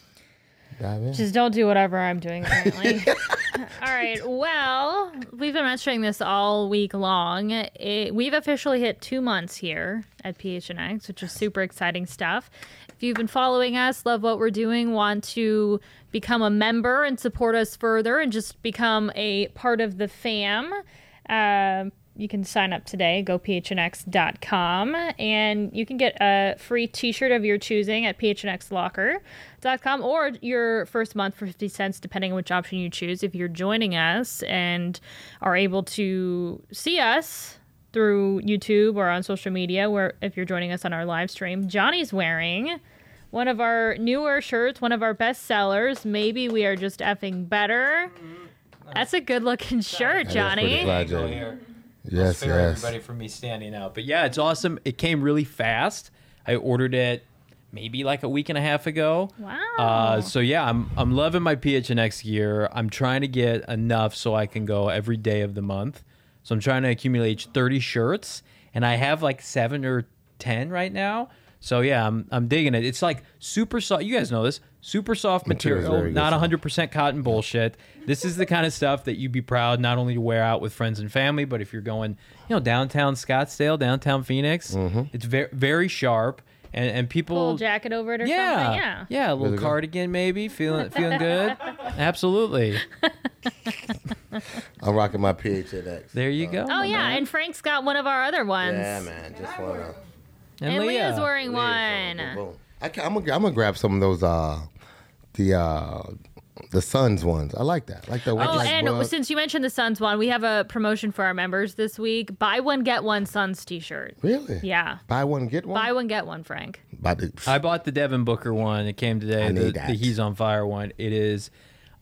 Dive in. Just don't do whatever I'm doing currently. All right. Well, we've been mentioning this all week long. It, we've officially hit two months here at P H N X, which is super exciting stuff. If you've been following us, love what we're doing, want to become a member and support us further and just become a part of the fam, uh, you can sign up today. Go P H N X dot com, and you can get a free t-shirt of your choosing at P H N X locker dot com, or your first month for fifty cents, depending on which option you choose. If you're joining us and are able to see us through YouTube or on social media, where if you're joining us on our live stream, Johnny's wearing one of our newer shirts, one of our best sellers. Maybe we are just effing better. That's a good looking shirt, That is Johnny. pretty fly, Johnny. Yes, Spare yes. everybody from me standing out. But yeah, it's awesome. It came really fast. I ordered it maybe like a week and a half ago. Wow. Uh, so yeah, I'm I'm loving my P H N X gear. I'm trying to get enough so I can go every day of the month. So I'm trying to accumulate thirty shirts, and I have like seven or ten right now. So yeah, I'm I'm digging it. It's like super soft. You guys know this. Super soft Material's material, very good not stuff. one hundred percent cotton bullshit. This is the kind of stuff that you'd be proud not only to wear out with friends and family, but if you're going, you know, downtown Scottsdale, downtown Phoenix, Mm-hmm. it's very very sharp, and and people Full jacket over it or yeah, something. Yeah. yeah, a little Really good. cardigan maybe, feeling feeling good. Absolutely. I'm rocking my P H N X. There you go. Oh my yeah, man. and Frank's got one of our other ones. Yeah, man. Just wanna. and, And Leah. Leah's wearing one. Boom, boom. I can, I'm gonna I'm gonna grab some of those uh the uh the Suns ones. I like that. I like that. Oh, like, and well, since you mentioned the Suns one, we have a promotion for our members this week. Buy one, get one Suns t-shirt. really, Yeah. buy one get one. Buy one, get one, Frank. Buy the, I bought the Devin Booker one. It came today. I The, need that. the He's on Fire one. It is.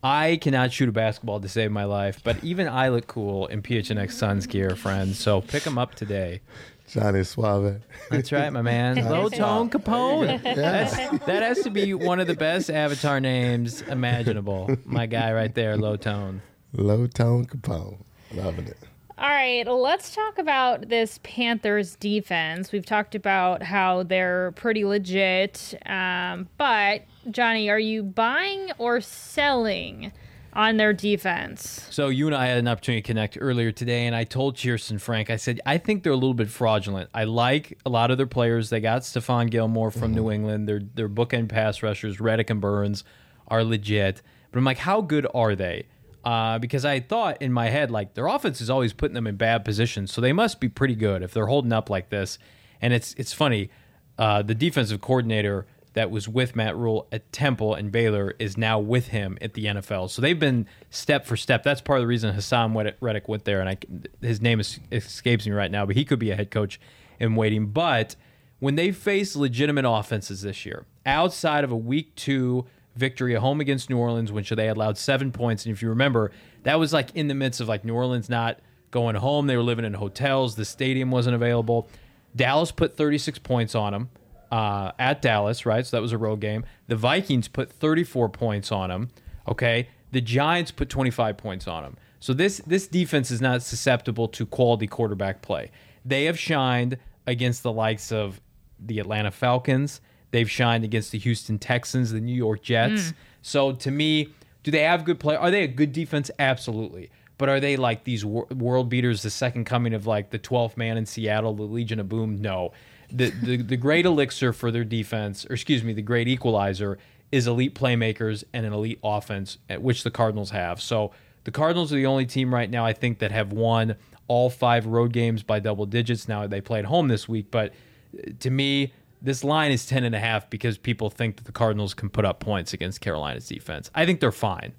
I cannot shoot a basketball to save my life, but even I look cool in P H N X Suns gear, friends. So pick them up today. Johnny Suave. That's right, my man. Low Tone Capone. That's, that has to be one of the best avatar names imaginable. My guy right there, Low Tone. Low Tone Capone. Loving it. All right, let's talk about this Panthers defense. We've talked about how they're pretty legit, um, but Johnny, are you buying or selling on their defense? So you and I had an opportunity to connect earlier today, and I told Cheerson Frank, I said, I think they're a little bit fraudulent. I like a lot of their players. They got Stephon Gilmore from New England. Their their bookend pass rushers, Reddick and Burns, are legit. But I'm like, how good are they? Uh, because I thought in my head, like, their offense is always putting them in bad positions, so they must be pretty good if they're holding up like this. And it's it's funny, uh, the defensive coordinator that was with Matt Rule at Temple and Baylor is now with him at the N F L. So they've been step for step. That's part of the reason Hassan Reddick went there, and I, his name is, escapes me right now, but he could be a head coach in waiting. But when they face legitimate offenses this year, outside of a week two victory at home against New Orleans, which they allowed seven points, and if you remember, that was like in the midst of like New Orleans not going home. They were living in hotels. The stadium wasn't available. Dallas put thirty-six points on them. Uh, at Dallas, right? So that was a road game. The Vikings put thirty-four points on them. Okay, the Giants put twenty-five points on them. So this this defense is not susceptible to quality quarterback play. They have shined against the likes of the Atlanta Falcons. They've shined against the Houston Texans, the New York Jets. Mm. So to me, do they have good play? Are they a good defense? Absolutely. But are they like these wor- world beaters, the second coming of like the twelfth man in Seattle, the Legion of Boom? No. The, the the great elixir for their defense, or excuse me, the great equalizer is elite playmakers and an elite offense, which the Cardinals have. So the Cardinals are the only team right now, I think, that have won all five road games by double digits. Now they played home this week, but to me, this line is ten and a half because people think that the Cardinals can put up points against Carolina's defense. I think they're fine.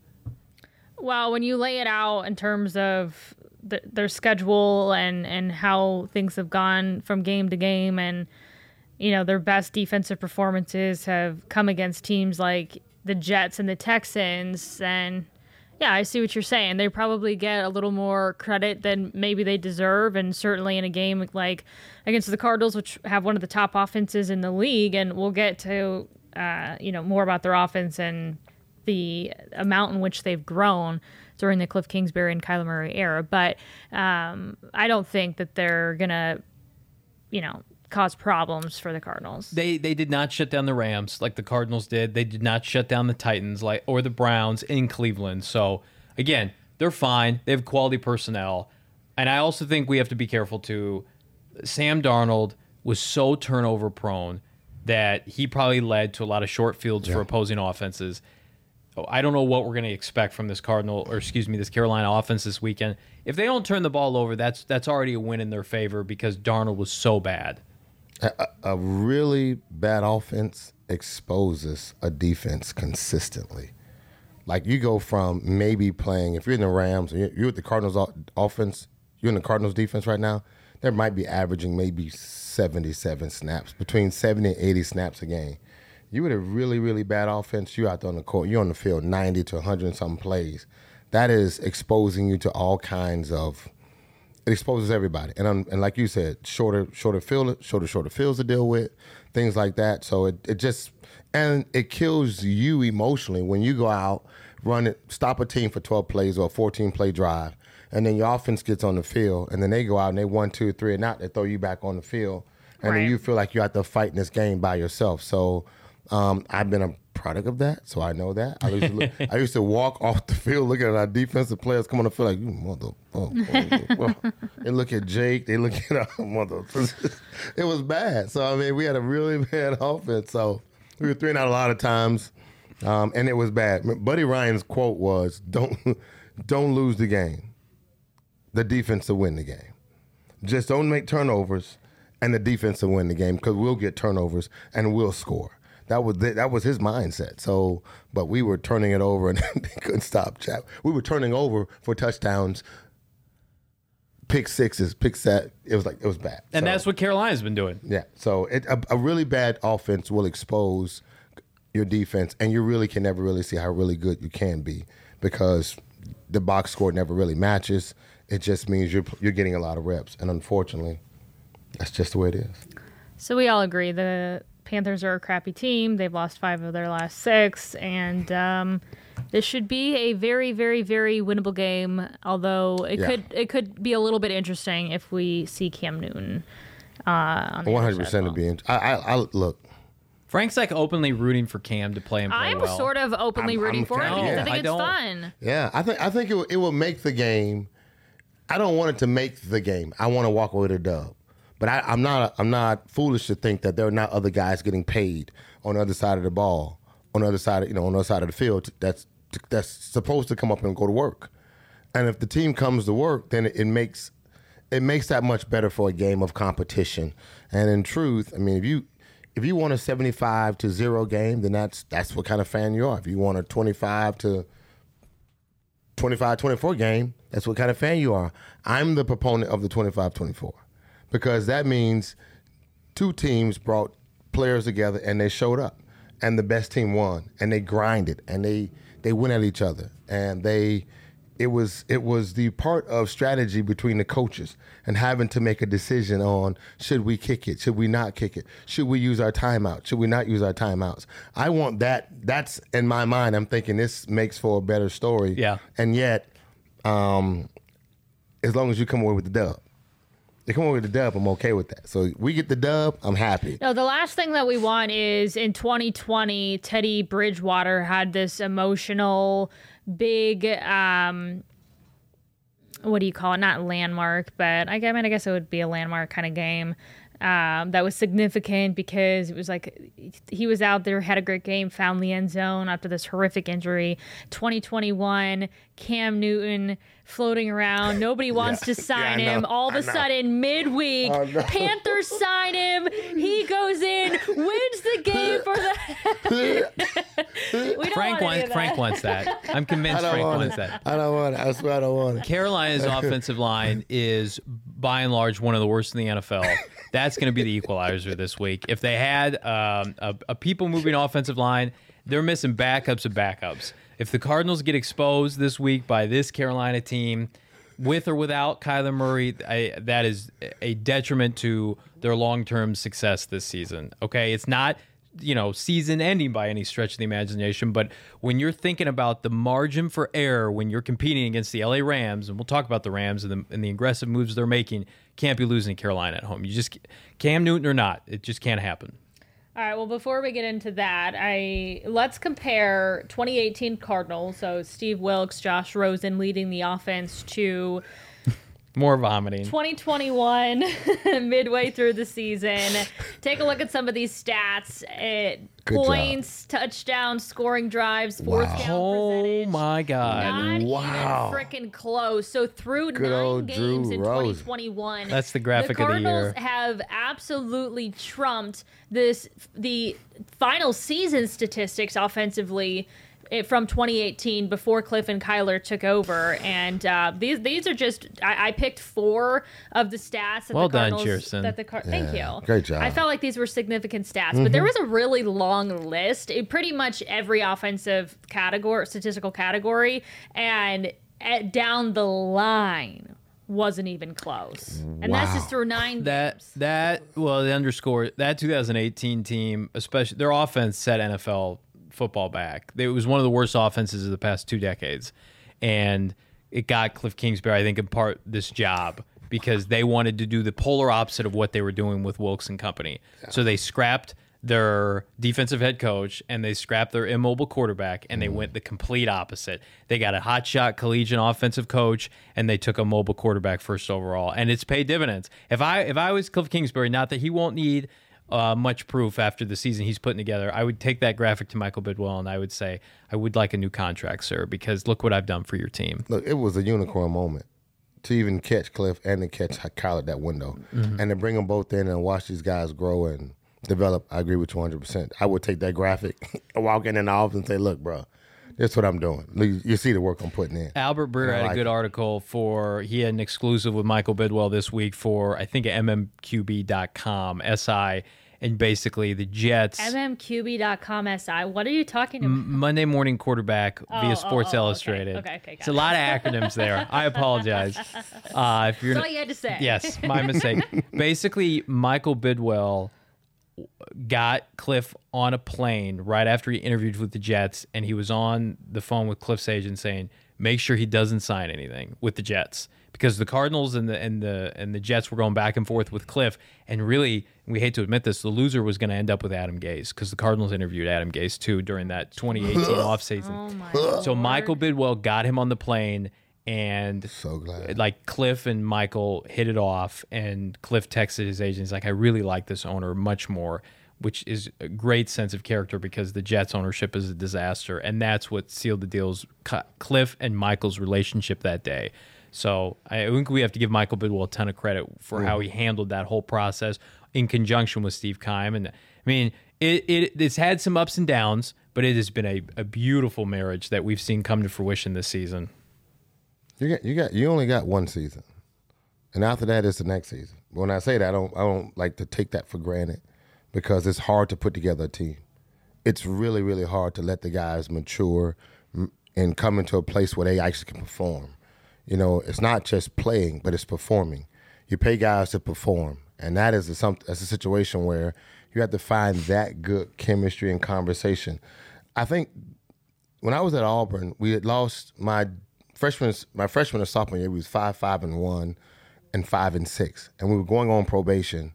Well, when you lay it out in terms of the, their schedule and, and how things have gone from game to game, and you know their best defensive performances have come against teams like the Jets and the Texans, and yeah, I see what you're saying. They probably get a little more credit than maybe they deserve, and certainly in a game like against the Cardinals, which have one of the top offenses in the league, and we'll get to uh, you know more about their offense and the amount in which they've grown during the Cliff Kingsbury and Kyler Murray era. But um, I don't think that they're going to, you know, cause problems for the Cardinals. They they did not shut down the Rams like the Cardinals did. They did not shut down the Titans like or the Browns in Cleveland. So, again, they're fine. They have quality personnel. And I also think we have to be careful, too. Sam Darnold was so turnover prone that he probably led to a lot of short fields yeah. for opposing offenses. I don't know what we're going to expect from this Cardinal, or excuse me, this Carolina offense this weekend. If they don't turn the ball over, that's that's already a win in their favor because Darnold was so bad. A, a really bad offense exposes a defense consistently. Like you go from maybe playing, if you're in the Rams, or you're with the Cardinals offense, you're in the Cardinals defense right now, there might be averaging maybe seventy-seven snaps, between seventy and eighty snaps a game. You with a really, really bad offense, you're out there on the court, you're on the field ninety to one hundred and something plays. That is exposing you to all kinds of, it exposes everybody. And um, and like you said, shorter, shorter field, shorter, shorter fields to deal with, things like that. So it, it just, and it kills you emotionally when you go out, run it, stop a team for twelve plays or a fourteen play drive, and then your offense gets on the field, and then they go out and they one, two, three, and out, they throw you back on the field. and Right. then you feel like you have to fight in this game by yourself. So um, I've been a product of that, so I know that. I used to, look, I used to walk off the field looking at our defensive players come on the field like, you mother, oh, oh, oh. They look at Jake, they look at our mother. It was bad. So, I mean, we had a really bad offense. So we were three and out a lot of times, um, and it was bad. Buddy Ryan's quote was, don't, don't lose the game. The defense will win the game. Just don't make turnovers, and the defense will win the game because we'll get turnovers and we'll score. That was that was his mindset. So, but we were turning it over and they couldn't stop. Chap. We were turning over for touchdowns, pick sixes, pick set. It was like it was bad. And So, that's what Carolina's been doing. yeah. So it, a, a really bad offense will expose your defense, and you really can never really see how really good you can be because the box score never really matches. It just means you're you're getting a lot of reps, and unfortunately, that's just the way it is. So we all agree the Panthers are a crappy team. They've lost five of their last six, and um, this should be a very, very, very winnable game. Although it Yeah. could it could be a little bit interesting if we see Cam Newton. Uh, on the One other hundred side percent as to well. be. In, I, I, I look. Frank's like openly rooting for Cam to play and play I'm well. sort of openly I'm- rooting I'm for it kinda- because yeah. I think I it's don't- fun. Yeah, I think I think it will, it will make the game. I don't want it to make the game. I want to walk away with a dub. But I, I'm not I'm not foolish to think that there are not other guys getting paid on the other side of the ball, on the other side of, you know, on the other side of the field that's that's supposed to come up and go to work. And if the team comes to work, then it, it makes it makes that much better for a game of competition. And in truth, I mean, if you if you want a seventy-five to zero game, then that's that's what kind of fan you are. If you want a twenty-five to twenty-five twenty-four game, that's what kind of fan you are. I'm the proponent of the twenty-five twenty-four because that means two teams brought players together and they showed up and the best team won and they grinded and they they went at each other and they it was it was the part of strategy between the coaches and having to make a decision on should we kick it, should we not kick it, should we use our timeout, should we not use our timeouts. I want that. That's in my mind. I'm thinking this makes for a better story. Yeah. And yet, um, as long as you come away with the dub, they come away with the dub, I'm okay with that. So we get the dub, I'm happy. No, the last thing that we want is in twenty twenty, Teddy Bridgewater had this emotional, big, um, what do you call it? Not landmark, but I, I mean, I guess it would be a landmark kind of game. Um, that was significant because it was like he was out there, had a great game, found the end zone after this horrific injury. twenty twenty-one, Cam Newton floating around. Nobody wants Yeah. to sign Yeah, I him. know. All of I a know. sudden, midweek, I know. Panthers sign him. He goes in, wins the game for the. we don't Frank want any wants of Frank that. wants that. I'm I convinced don't Frank want wants it. that. I don't want it. I swear I don't want it. Carolina's offensive line is by and large one of the worst in the N F L. That's going to be the equalizer this week. If they had um, a, a people moving offensive line, they're missing backups of backups. If the Cardinals get exposed this week by this Carolina team, with or without Kyler Murray, I, that is a detriment to their long-term success this season. Okay, it's not, you know, season ending by any stretch of the imagination, but when you're thinking about the margin for error when you're competing against the L A Rams, and we'll talk about the Rams and the, and the aggressive moves they're making, can't be losing to Carolina at home. You just, Cam Newton or not, it just can't happen. All right. Well, before we get into that, I let's compare twenty eighteen Cardinals. So Steve Wilkes, Josh Rosen leading the offense to More vomiting. twenty twenty-one, midway through the season. Take a look at some of these stats. It, Good job. points, touchdowns, scoring drives, fourth Wow. down Oh percentage. my God. Not Wow. even freaking close. So through Good nine old games Drew in Rosen. twenty twenty-one, That's the graphic of the Cardinals year. have absolutely trumped this the final season statistics offensively eh, from twenty eighteen before Cliff and Kyler took over. And uh, these these are just I, I picked four of the stats that Well the done, Cardinals Kirsten. that the Car- thank Yeah, you. great job. I felt like these were significant stats, but there was a really long list. It, pretty much every offensive category, statistical category, and at, down the line wasn't even close. And that's just Wow. through nine That games. that well, the underscore that two thousand eighteen team, especially their offense, set N F L football back. It was one of the worst offenses of the past two decades, and it got Cliff Kingsbury, I think, in part this job because they wanted to do the polar opposite of what they were doing with Wilkes and company. Yeah. So they scrapped their defensive head coach and they scrapped their immobile quarterback and they mm. went the complete opposite. They got a hotshot collegiate offensive coach and they took a mobile quarterback first overall, and it's paid dividends. If I if I was Cliff Kingsbury, not that he won't need uh, much proof after the season he's putting together, I would take that graphic to Michael Bidwell and I would say, I would like a new contract, sir, because look what I've done for your team. Look, it was a unicorn moment to even catch Cliff and to catch Kyle at that window, mm-hmm. and to bring them both in and watch these guys grow and develop. I agree with you one hundred percent. I would take that graphic, walk in in the office and say, look, bro, that's what I'm doing. You, you see the work I'm putting in. Albert Breer had like a good it. article for, he had an exclusive with Michael Bidwell this week for, I think, M M Q B dot com, S I, and basically the Jets. M M Q B dot com S I. What are you talking about? M- Monday Morning Quarterback oh, via Sports oh, oh, Illustrated. Okay, okay, okay. It's a lot of acronyms there. I apologize. Uh, if you're That's all you had to say. Yes, my mistake. Basically, Michael Bidwell got Cliff on a plane right after he interviewed with the Jets, and he was on the phone with Cliff's agent saying, make sure he doesn't sign anything with the Jets, because the Cardinals and the and the and the Jets were going back and forth with Cliff, and really, we hate to admit this, the loser was going to end up with Adam Gase, because the Cardinals interviewed Adam Gase too during that twenty eighteen offseason. Oh my so Lord. Michael Bidwell got him on the plane, and so glad. like Cliff and Michael hit it off, and Cliff texted his agent. He's like, I really like this owner much more, which is a great sense of character because the Jets ownership is a disaster. And that's what sealed the deals, Cliff and Michael's relationship that day. So I think we have to give Michael Bidwell a ton of credit for mm. how he handled that whole process in conjunction with Steve Keim. And I mean, it, it it's had some ups and downs, but it has been a, a beautiful marriage that we've seen come to fruition this season. You got, you got, you only got one season, and after that, it's the next season. When I say that, I don't, I don't like to take that for granted, because it's hard to put together a team. It's really, really hard to let the guys mature and come into a place where they actually can perform. You know, it's not just playing, but it's performing. You pay guys to perform, and that is a, some, that's a situation where you have to find that good chemistry and conversation. I think when I was at Auburn, we had lost my freshman, my freshman and sophomore year. We was five, five, and one, and five and six, and we were going on probation.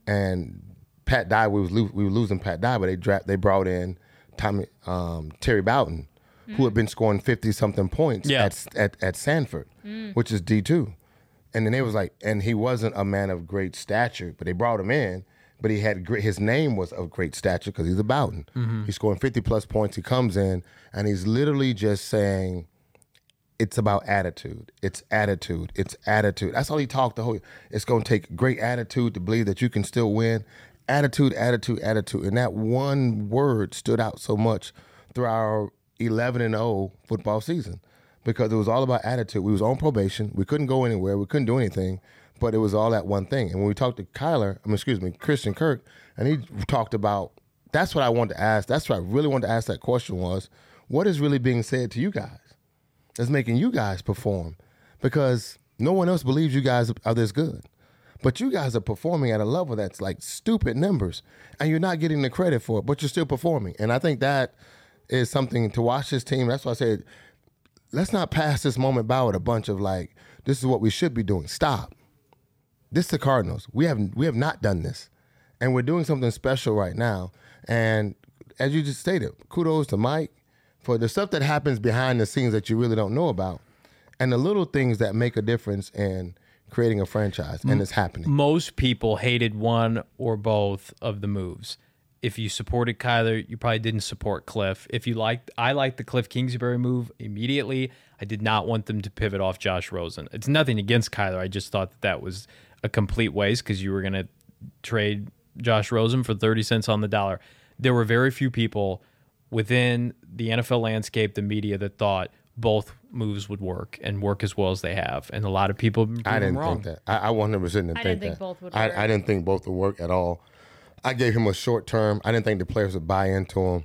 And Pat Dye, we was lo- we were losing Pat Dye, but they dra- they brought in Tommy um, Terry Bowden, mm. who had been scoring fifty something points yeah. at, at at Sanford, mm. which is D two, and then they was like, and he wasn't a man of great stature, but they brought him in. But he had great, his name was of great stature because he's a Bowden. Mm-hmm. He's scoring fifty plus points. He comes in and he's literally just saying, it's about attitude. It's attitude. It's attitude. That's all he talked the whole. It's going to take great attitude to believe that you can still win. Attitude, attitude, attitude. And that one word stood out so much through our eleven and oh football season, because it was all about attitude. We was on probation. We couldn't go anywhere. We couldn't do anything, but it was all that one thing. And when we talked to Kyler, I mean, excuse me, Christian Kirk, and he talked about, that's what I wanted to ask. That's what I really wanted to ask that question was, what is really being said to you guys that's making you guys perform? Because no one else believes you guys are this good. But you guys are performing at a level that's like stupid numbers, and you're not getting the credit for it, but you're still performing. And I think that is something to watch this team. That's why I said, let's not pass this moment by with a bunch of like, this is what we should be doing. Stop. This is the Cardinals. We have we have not done this, and we're doing something special right now. And as you just stated, kudos to Mike for the stuff that happens behind the scenes that you really don't know about, and the little things that make a difference in creating a franchise, and it's happening. Most people hated one or both of the moves. If you supported Kyler, you probably didn't support Cliff. If you liked, I liked the Cliff Kingsbury move immediately. I did not want them to pivot off Josh Rosen. It's nothing against Kyler. I just thought that that was a complete waste because you were going to trade Josh Rosen for thirty cents on the dollar. There were very few people within the N F L landscape, the media, that thought both moves would work and work as well as they have. And a lot of people I didn't wrong. think that. I, I one hundred percent didn't I think didn't that. think both would I, work. I didn't think both would work at all. I gave him a short term. I didn't think the players would buy into him.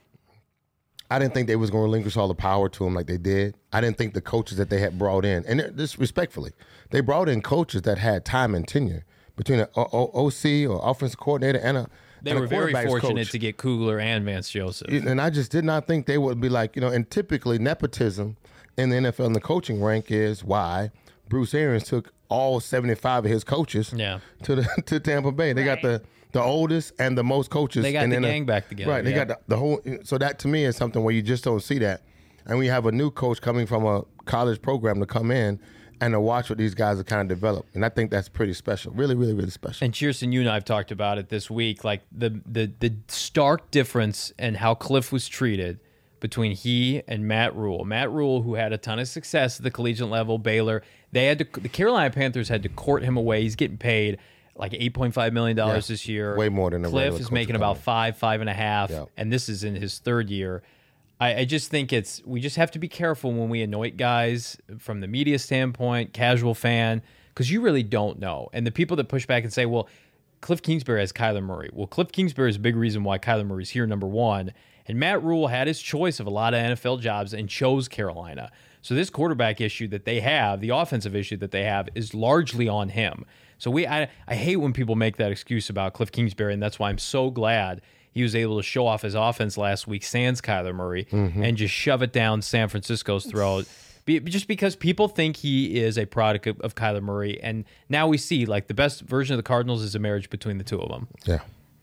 I didn't think they was going to relinquish all the power to him like they did. I didn't think the coaches that they had brought in, and this respectfully, they brought in coaches that had time and tenure between an O C or offensive coordinator and a They and were a very fortunate coach. to get Kugler and Vance Joseph. And I just did not think they would be like, you know, and typically nepotism in the N F L and the coaching rank is why Bruce Arians took all seventy-five of his coaches Yeah. to the to Tampa Bay. They got Right. the the oldest and the most coaches. They got and the then a- gang back together, Right. They yeah. got the, the whole. So that to me is something where you just don't see that. And we have a new coach coming from a college program to come in and to watch what these guys are kind of develop. And I think that's pretty special. Really, really, really special. And Cheerson, you and I have talked about it this week, like the the the stark difference in how Cliff was treated between he and Matt Rule. Matt Rule, who had a ton of success at the collegiate level, Baylor, they had to the Carolina Panthers had to court him away. He's getting paid like eight point five million dollars Yeah, this year. way more than a Cliff regular is coach making would about come in. five, five and a half, Yeah. and this is in his third year. I, I just think it's we just have to be careful when we anoint guys from the media standpoint, casual fan, because you really don't know. And the people that push back and say, well, Cliff Kingsbury has Kyler Murray. Well, Cliff Kingsbury is a big reason why Kyler Murray's here, number one. And Matt Rule had his choice of a lot of N F L jobs and chose Carolina. So this quarterback issue that they have, the offensive issue that they have, is largely on him. So we, I, I hate when people make that excuse about Cliff Kingsbury, and that's why I'm so glad he was able to show off his offense last week, sans Kyler Murray, and just shove it down San Francisco's throat. Be, just because people think he is a product of, of Kyler Murray, and now we see like the best version of the Cardinals is a marriage between the two of them. Yeah.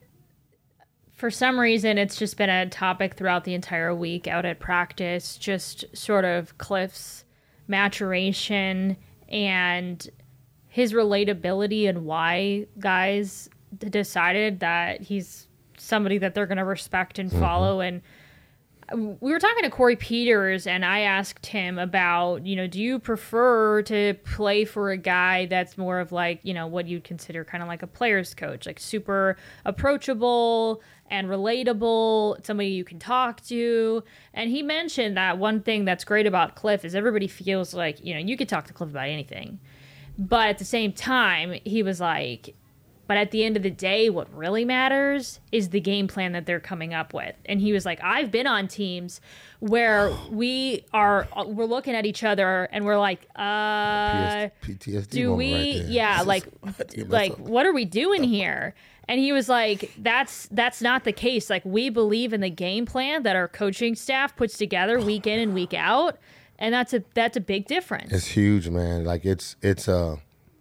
For some reason, it's just been a topic throughout the entire week out at practice, just sort of Cliff's maturation and his relatability and why guys d- decided that he's somebody that they're going to respect and follow. And we were talking to Corey Peters, and I asked him about, you know, do you prefer to play for a guy that's more of like, you know, what you'd consider kind of like a player's coach, like super approachable and relatable, somebody you can talk to? And he mentioned that one thing that's great about Cliff is everybody feels like, you know, you could talk to Cliff about anything. But at the same time, he was like, but at the end of the day, what really matters is the game plan that they're coming up with. And he was like, I've been on teams where we are, we're looking at each other and we're like, uh, P T S D do moment we, right there. yeah, like, Yeah, like, that's a- what are we doing here? And he was like, that's, that's not the case. Like, we believe in the game plan that our coaching staff puts together week in and week out. And that's a, that's a big difference. It's huge, man. Like it's it's uh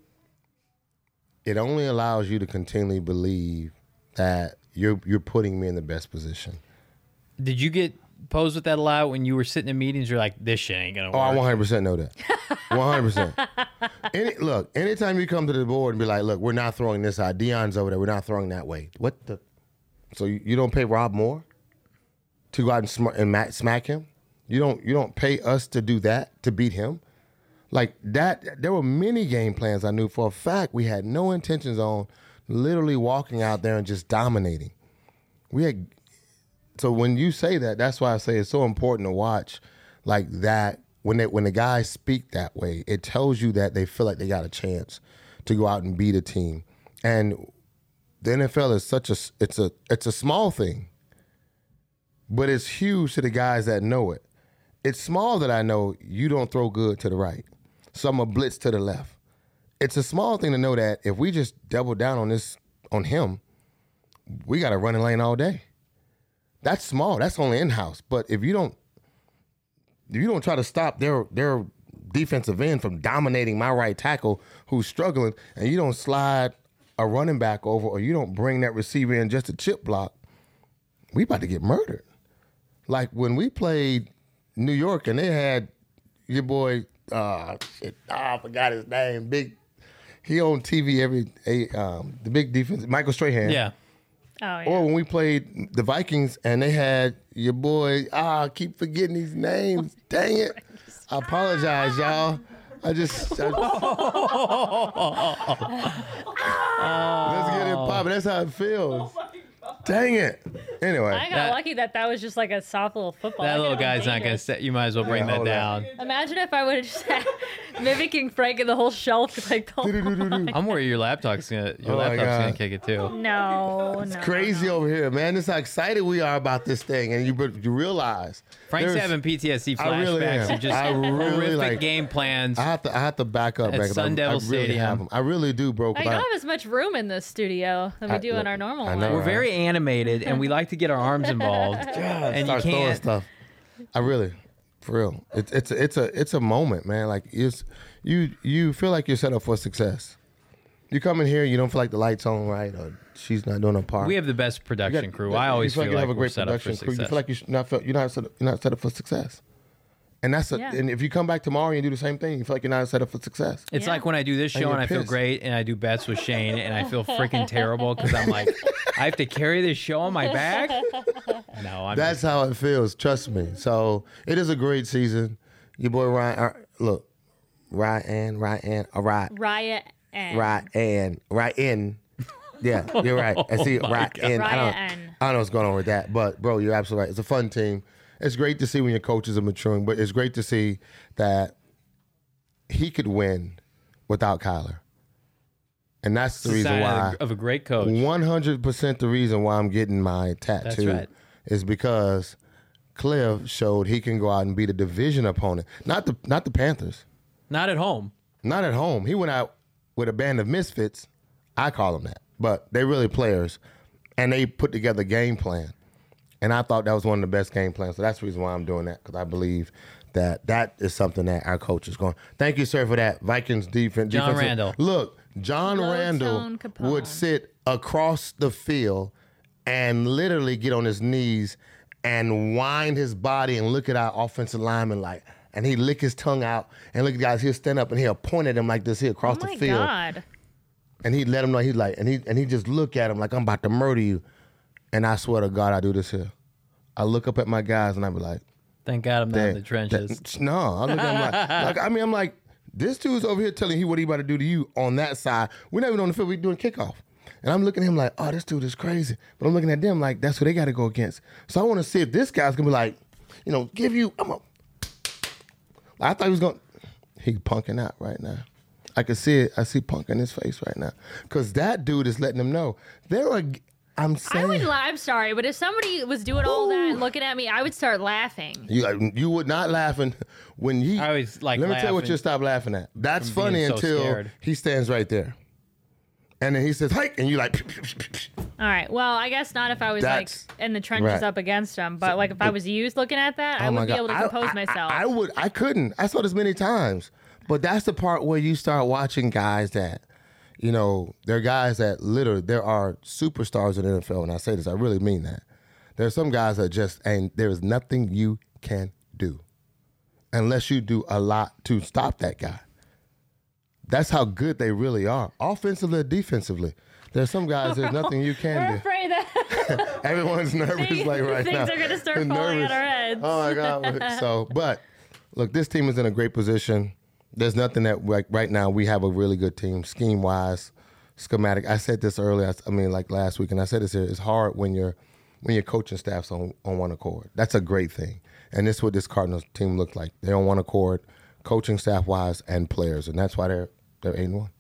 it only allows you to continually believe that you're you're putting me in the best position. Did you get posed with that a lot when you were sitting in meetings? You're like, this shit ain't gonna Oh, I work. one hundred percent know that. one hundred percent. Any, look, anytime you come to the board and be like, look, we're not throwing this out. Dion's over there. We're not throwing that way. What the? So you, you don't pay Rob Moore to go out and, sm- and ma- smack him? You don't you don't pay us to do that, to beat him? Like that, there were many game plans I knew for a fact we had no intentions on literally walking out there and just dominating. We had, so when you say that, that's why I say it's so important to watch like that. When they, when the guys speak that way, it tells you that they feel like they got a chance to go out and beat a team. And the N F L is such a, it's a, it's a small thing, but it's huge to the guys that know it. It's small that I know you don't throw good to the right. So I'm a blitz to the left. It's a small thing to know that if we just double down on this, on him, we got a running lane all day. That's small. That's only in-house. But if you don't, if you don't try to stop their their defensive end from dominating my right tackle who's struggling, and you don't slide a running back over, or you don't bring that receiver in just a chip block, we about to get murdered. Like when we played New York and they had your boy, uh, shit, oh, I forgot his name. Big, he on T V every, a, um, the big defense, Michael Strahan. Yeah. Oh, yeah. Or when we played the Vikings and they had your boy, ah, I keep forgetting these names. Dang it. I apologize, y'all. I just, I, let's get it popping. That's how it feels. Dang it. Anyway. I got That- lucky that that was just like a soft little football. That I little could have guy's not gonna dangerous. set. You might as well bring Yeah, that hold on. down. Imagine if I would have just had mimicking Frank and the whole shelf like the whole line. I'm worried your laptop's gonna your Oh my laptop's gonna God. kick it too. No, no. Crazy over here, man. This is how excited we are about this thing. And you you realize. Frank's there's- having P T S D I really flashbacks am. of just I really, horrific like- game plans. I have to I have to back up, At man, 'cause I- Sun Devil I really Stadium. have them. I really do, bro. 'cause I don't I- have as much room in this studio than we I- do in look, our normal I one. know, We're right? very animated, and we like to get our arms involved. and you start throwing can't. stuff. I really, For real, it's it's a, it's a it's a moment, man. Like it's you you feel like you're set up for success. You come in here, you don't feel like the lights on right, or she's not doing her part. We have the best production got- crew. I always you feel you like have a we're great set up for production crew. You success. feel like you're not you're not set up, you're not set up for success. And that's a, Yeah. and if you come back tomorrow and you do the same thing, you feel like you're not set up for success. It's Yeah. like when I do this And show you're and I feel pissed. great and I do bets with Shane and I feel freaking terrible because I'm like, I have to carry this show on my back. No, I'm That's how it feels. Trust me. So it is a great season. Your boy Ryan, uh, look, Ryan, Ryan, uh, Ryan, Riot and Ryan, Ryan. Yeah, you're right. I see Oh my Ryan. I don't, Ryan. I don't know what's going on with that, but bro, you're absolutely right. It's a fun team. It's great to see when your coaches are maturing, but it's great to see that he could win without Kyler, and that's the the reason sign why. of, a- of a great coach. One hundred percent the reason why I'm getting my tattoo right. is because Cliff showed he can go out and beat a division opponent, not the not the Panthers, Not at home. not at home. He went out with a band of misfits. I call them that, but they really players, and they put together a game plan. And I thought that was one of the best game plans. So that's the reason why I'm doing that, because I believe that that is something that our coach is going. Thank you, sir, for that. Vikings defense. John defensive- Randall. Look, John Low Randall tone Capone. would sit across the field and literally get on his knees and wind his body and look at our offensive lineman like, and he'd lick his tongue out and look at guys. He'll stand up and he'll point at him like this here across Oh my the field, God. and he'd let him know he's like, and he and he just look at him like, I'm about to murder you. And I swear to God, I do this here. I look up at my guys and I be like, Thank God I'm not in that- the trenches. that- no, I look at him like, like, I mean, I'm like, this dude's over here telling you what he about to do to you on that side. We're not even on the field. We're doing kickoff. And I'm looking at him like, oh, this dude is crazy. But I'm looking at them like, that's who they got to go against. So I want to see if this guy's going to be like, you know, give you, I'm a, I thought he was going, he punking out right now. I can see it. I see punk in his face right now. Because that dude is letting them know. There are, I'm I saying. would. la- I'm sorry, but if somebody was doing all that and looking at me, I would start laughing. You you would not laughing when he. I always like Let me tell you what laughing you stop laughing at. That's from funny being so until scared. he stands right there, and then he says hike, and you like. All right. Well, I guess not if I was That's- like in the trenches right. up against them, but like if I was you looking at that, I Oh my would be God. able to I- compose I, myself. I, I would. I couldn't. I saw this many times, but that's the part where you start watching guys that, you know, there are guys that literally there are superstars in the N F L, and I say this, I really mean that. There are some guys that just, and there is nothing you can do unless you do a lot to stop that guy. That's how good they really are, offensively or defensively. There's some guys, there's nothing you We're can do. afraid that Everyone's nervous things, like right things now. are gonna start They're falling nervous. on our heads. Oh my God. So, but look, this team is in a great position. There's nothing that like right now we have a really good team, scheme wise, schematic. I said this earlier. I, I mean, like last week, and I said this here. It's hard when you're when your coaching staff's on on one accord. That's a great thing, and this is what this Cardinals team looks like. They're on one accord, coaching staff wise and players, and that's why they're they're eight and one.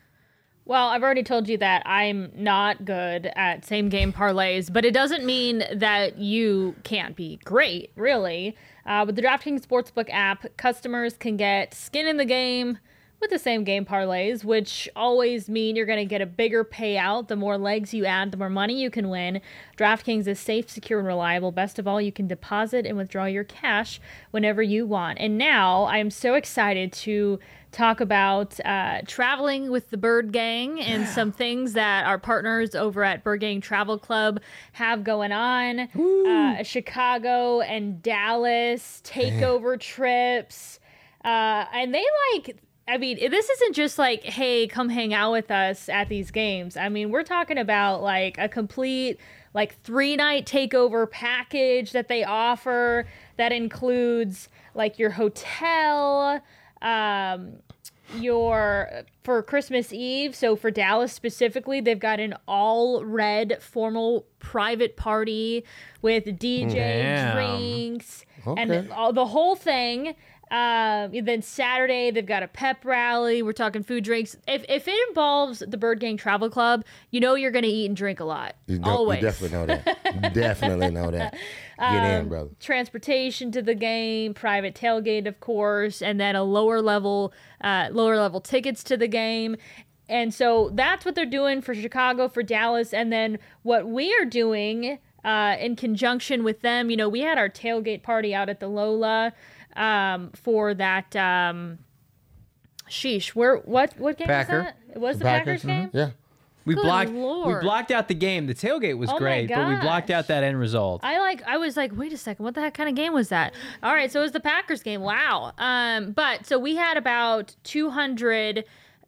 Well, I've already told you that I'm not good at same game parlays, but it doesn't mean that you can't be great, really. Uh, with the DraftKings Sportsbook app, customers can get skin in the game with the same game parlays, which always mean you're going to get a bigger payout. The more legs you add, the more money you can win. DraftKings is safe, secure, and reliable. Best of all, you can deposit and withdraw your cash whenever you want. And now I am so excited to talk about uh, traveling with the Bird Gang and some things that our partners over at Bird Gang Travel Club have going on. Uh, Chicago and Dallas takeover trips. Uh, and they like... I mean, this isn't just like, hey, come hang out with us at these games. I mean, we're talking about like a complete like three night takeover package that they offer that includes like your hotel, um, your for Christmas Eve. So for Dallas specifically, they've got an all red formal private party with D J Damn. drinks Okay. and all, the whole thing. Um, then Saturday they've got a pep rally. We're talking food, drinks. If if it involves the Bird Gang Travel Club, you know you're going to eat and drink a lot. You, don't, Always. you definitely know that. Definitely know that. Get in, brother. Transportation to the game, private tailgate, of course, and then a lower level, uh, lower level tickets to the game. And so that's what they're doing for Chicago, for Dallas, and then what we are doing uh, in conjunction with them, you know, we had our tailgate party out at the Lola um, for that. Um, sheesh, where what what game Packer. was that? It was the, Packers, Packers game. mhm, Yeah. We Good blocked. We Lord. blocked out the game. The tailgate was Oh my great, but we blocked gosh. out that end result. I like. I was like, wait a second, what the heck kind of game was that? All right, so it was the Packers game. Wow. Um, but so we had about two hundred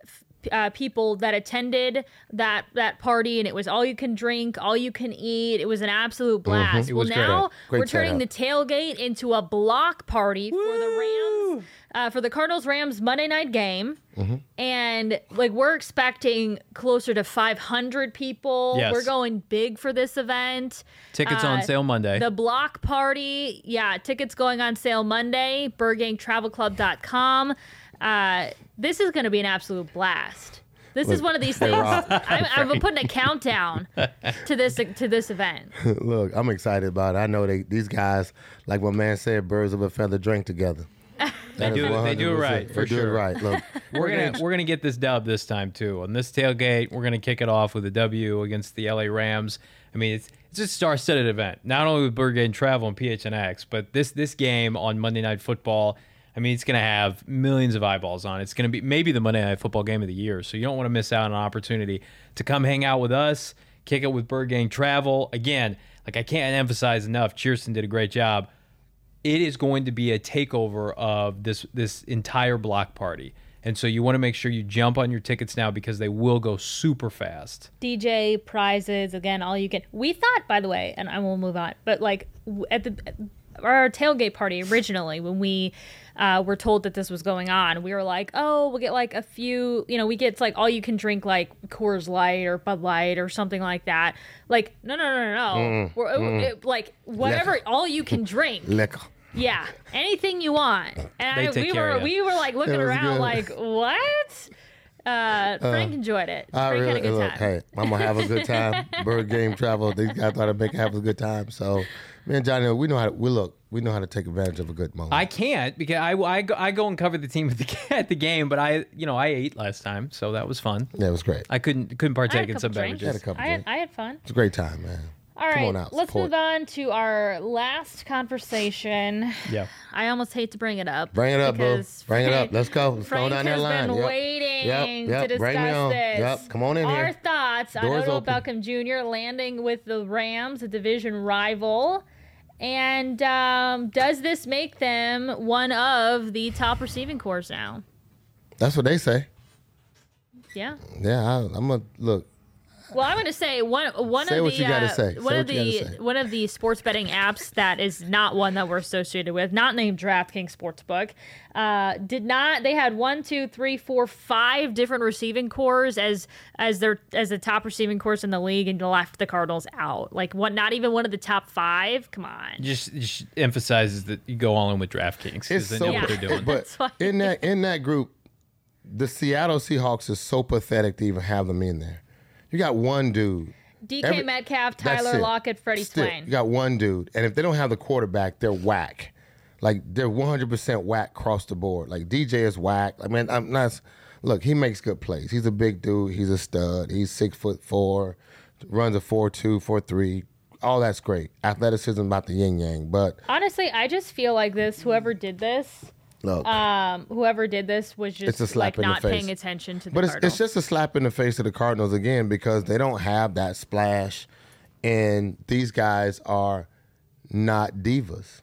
uh, people that attended that that party, and it was all you can drink, all you can eat. It was an absolute blast. It well, was great. now Great we're turning the setup. tailgate into a block party for the Rams. Uh, for the Cardinals Rams Monday night game, Mm-hmm. and like we're expecting closer to five hundred people. Yes. We're going big for this event. Tickets on Uh, sale Monday. The block party, yeah, tickets going on sale Monday, bird gang travel club dot com. Uh, this is going to be an absolute blast. This is Look, one of these hey, things. Rob. I'm, I'm putting a countdown to this to this event. Look, I'm excited about it. I know they these guys, like my man said, birds of a feather drink together. They do it- they do it right, for They do it sure. right. Look, We're gonna we're gonna get this dub this time too. On this tailgate, we're gonna kick it off with a W against the L A Rams. I mean, it's it's a star-studded event. Not only with Bird Gang Travel and P H N X, but this this game on Monday Night Football. I mean, it's gonna have millions of eyeballs on it. It's gonna be maybe the Monday Night Football game of the year. So you don't want to miss out on an opportunity to come hang out with us, kick it with Bird Gang Travel. Again, like I can't emphasize enough. Cheerson did a great job. It is going to be a takeover of this this entire block party. And so you want to make sure you jump on your tickets now because they will go super fast. D J prizes again, all you can. We thought, by the way, and I will move on, but like w- at the our tailgate party originally, when we uh, were told that this was going on, we were like, oh, we'll get like a few, you know, we get like all you can drink like Coors Light or Bud Light or something like that. Like, no, no, no, no, no. We're, it- like whatever, Liquor. all you can drink. liquor. Yeah, anything you want. And They I, take we care were of ya. we were like looking It was around good. like, what? Uh, Frank enjoyed it. I Frank really, had a good look, time. hey, I'm gonna have a good time. Bird Game Travel. These guys thought I'd make have a good time. So, me and Johnny, we know how to. We look. We know how to take advantage of a good moment. I can't because I, I, go, I go and cover the team at the, at the game, but I you know I ate last time, so that was fun. yeah, it was great. I couldn't couldn't I had partake a in some couple drinks. beverages. Had a couple I had, drinks. I had fun. It's a great time, man. All Come right, on out, let's support. move on to our last conversation. Yeah. I almost hate to bring it up. Bring it up, boo. because Bring it up. Let's go. Let's Frank go down that has line. been Yep. waiting Yep, yep. to discuss Bring me on. this. Yep. Come on in Our here. thoughts on Doors Odell open. Beckham Junior landing with the Rams, a division rival. And um, does this make them one of the top receiving corps now? That's what they say. Yeah. Yeah, I, I'm gonna look. Well, I'm going to say one one Say of what the you gotta uh, say. one Say of what you the gotta say. one of the sports betting apps that is not one that we're associated with, not named DraftKings Sportsbook, uh, did not. They had one, two, three, four, five different receiving corps as as their as the top receiving corps in the league, and left the Cardinals out. Like what? Not even one of the top five. Come on. Just, just emphasizes that you go all in with DraftKings because It's they so, know Yeah. what they're doing. but That's why- in that in that group, the Seattle Seahawks is so pathetic to even have them in there. You got one dude. D K Every- Metcalf, That's Tyler it. Lockett, Freddie Still, Swain. You got one dude, and if they don't have the quarterback, they're whack. Like they're one hundred percent whack across the board. Like D J is whack. I mean, I'm not. Look, he makes good plays. He's a big dude. He's a stud. He's six foot four, runs a four two, four three. All that's great. Athleticism about the yin yang. But Honestly, I just feel like this. Whoever did this, look, um, whoever did this was It's a just slap like in the not face. paying attention to the But it's, Cardinals. it's just a slap in the face of the Cardinals again because they don't have that splash, and these guys are not divas.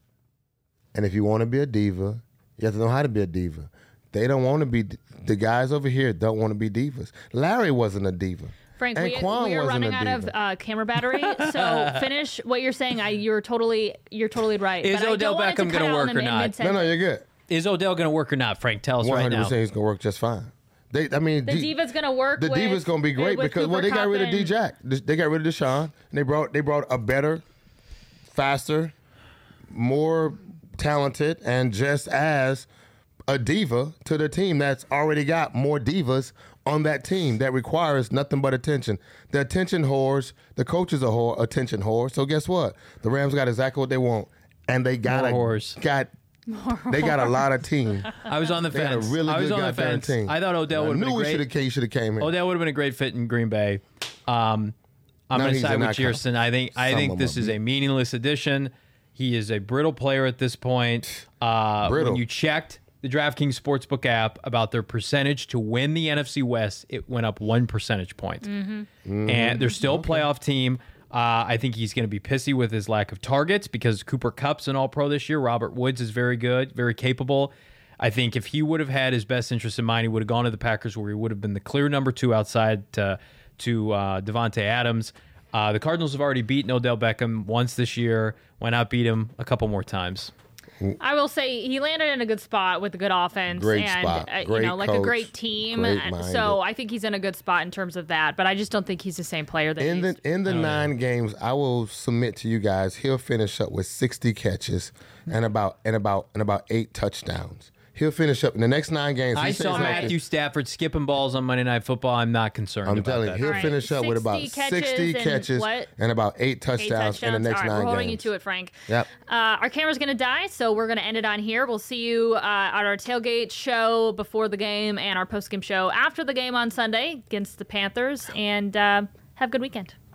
And if you want to be a diva, you have to know how to be a diva. They don't want to be. The guys over here don't want to be divas. Larry wasn't a diva. Frank, and we, Quan we are wasn't running a out of diva. uh, camera battery. So finish what you're saying. I you're totally you're totally right. Is but I Odell don't want it to Beckham cut gonna out work in the or mid- not? mid-sentence. No, no, you're good. Is Odell going to work or not, Frank? Tell us One right hundred now. percent, he's gonna work just fine. They, I mean, The D- diva's gonna work. The with, diva's gonna be great with because well, Cooper they got rid of Kupp D and- Jack. They got rid of Deshaun, and they brought they brought a better, faster, more talented, and just as a diva to the team that's already got more divas on that team that requires nothing but attention. The attention whores, the coaches are whore, attention whores. So guess what? The Rams got exactly what they want, and they got More a whores. got. They got a lot of team. I was on the They got a fence. really I was good on the goddamn fence. team. I thought Odell I would have knew been he great. should have came. Should have came here. Odell would have been a great fit in Green Bay. Um, I'm No, going to he's side not with count. Jerson. I think I Some think of this them. is a meaningless addition. He is a brittle player at this point. Uh, Brittle. When you checked the DraftKings Sportsbook app about their percentage to win the N F C West, it went up one percentage point. Mm-hmm. And they're still a playoff team. Uh, I think he's going to be pissy with his lack of targets because Cooper Kupp's an all-pro this year. Robert Woods is very good, very capable. I think if he would have had his best interest in mind, he would have gone to the Packers where he would have been the clear number two outside to, to uh, Devontae Adams. Uh, the Cardinals have already beaten Odell Beckham once this year. Why not beat him a couple more times? I will say he landed in a good spot with a good offense Great and spot. uh, you Great know like a coach. great team. Great And minded. so I think he's in a good spot in terms of that. But I just don't think he's the same player that In he the used to. in the nine games, I will submit to you guys, he'll finish up with sixty catches and about and about and about eight touchdowns. He'll finish up in the next nine games. I he saw stays healthy. Matthew Stafford skipping balls on Monday Night Football. I'm not concerned I'm about telling you, that. he'll All right, finish up with about sixty sixty catches catches and what? and about eight Eight touchdowns, in the touchdowns. next All right, nine we're holding games. you to it, Frank. Yep. Uh, our camera's going to die, so we're going to end it on here. We'll see you uh, at our tailgate show before the game and our post-game show after the game on Sunday against the Panthers. And uh, have a good weekend.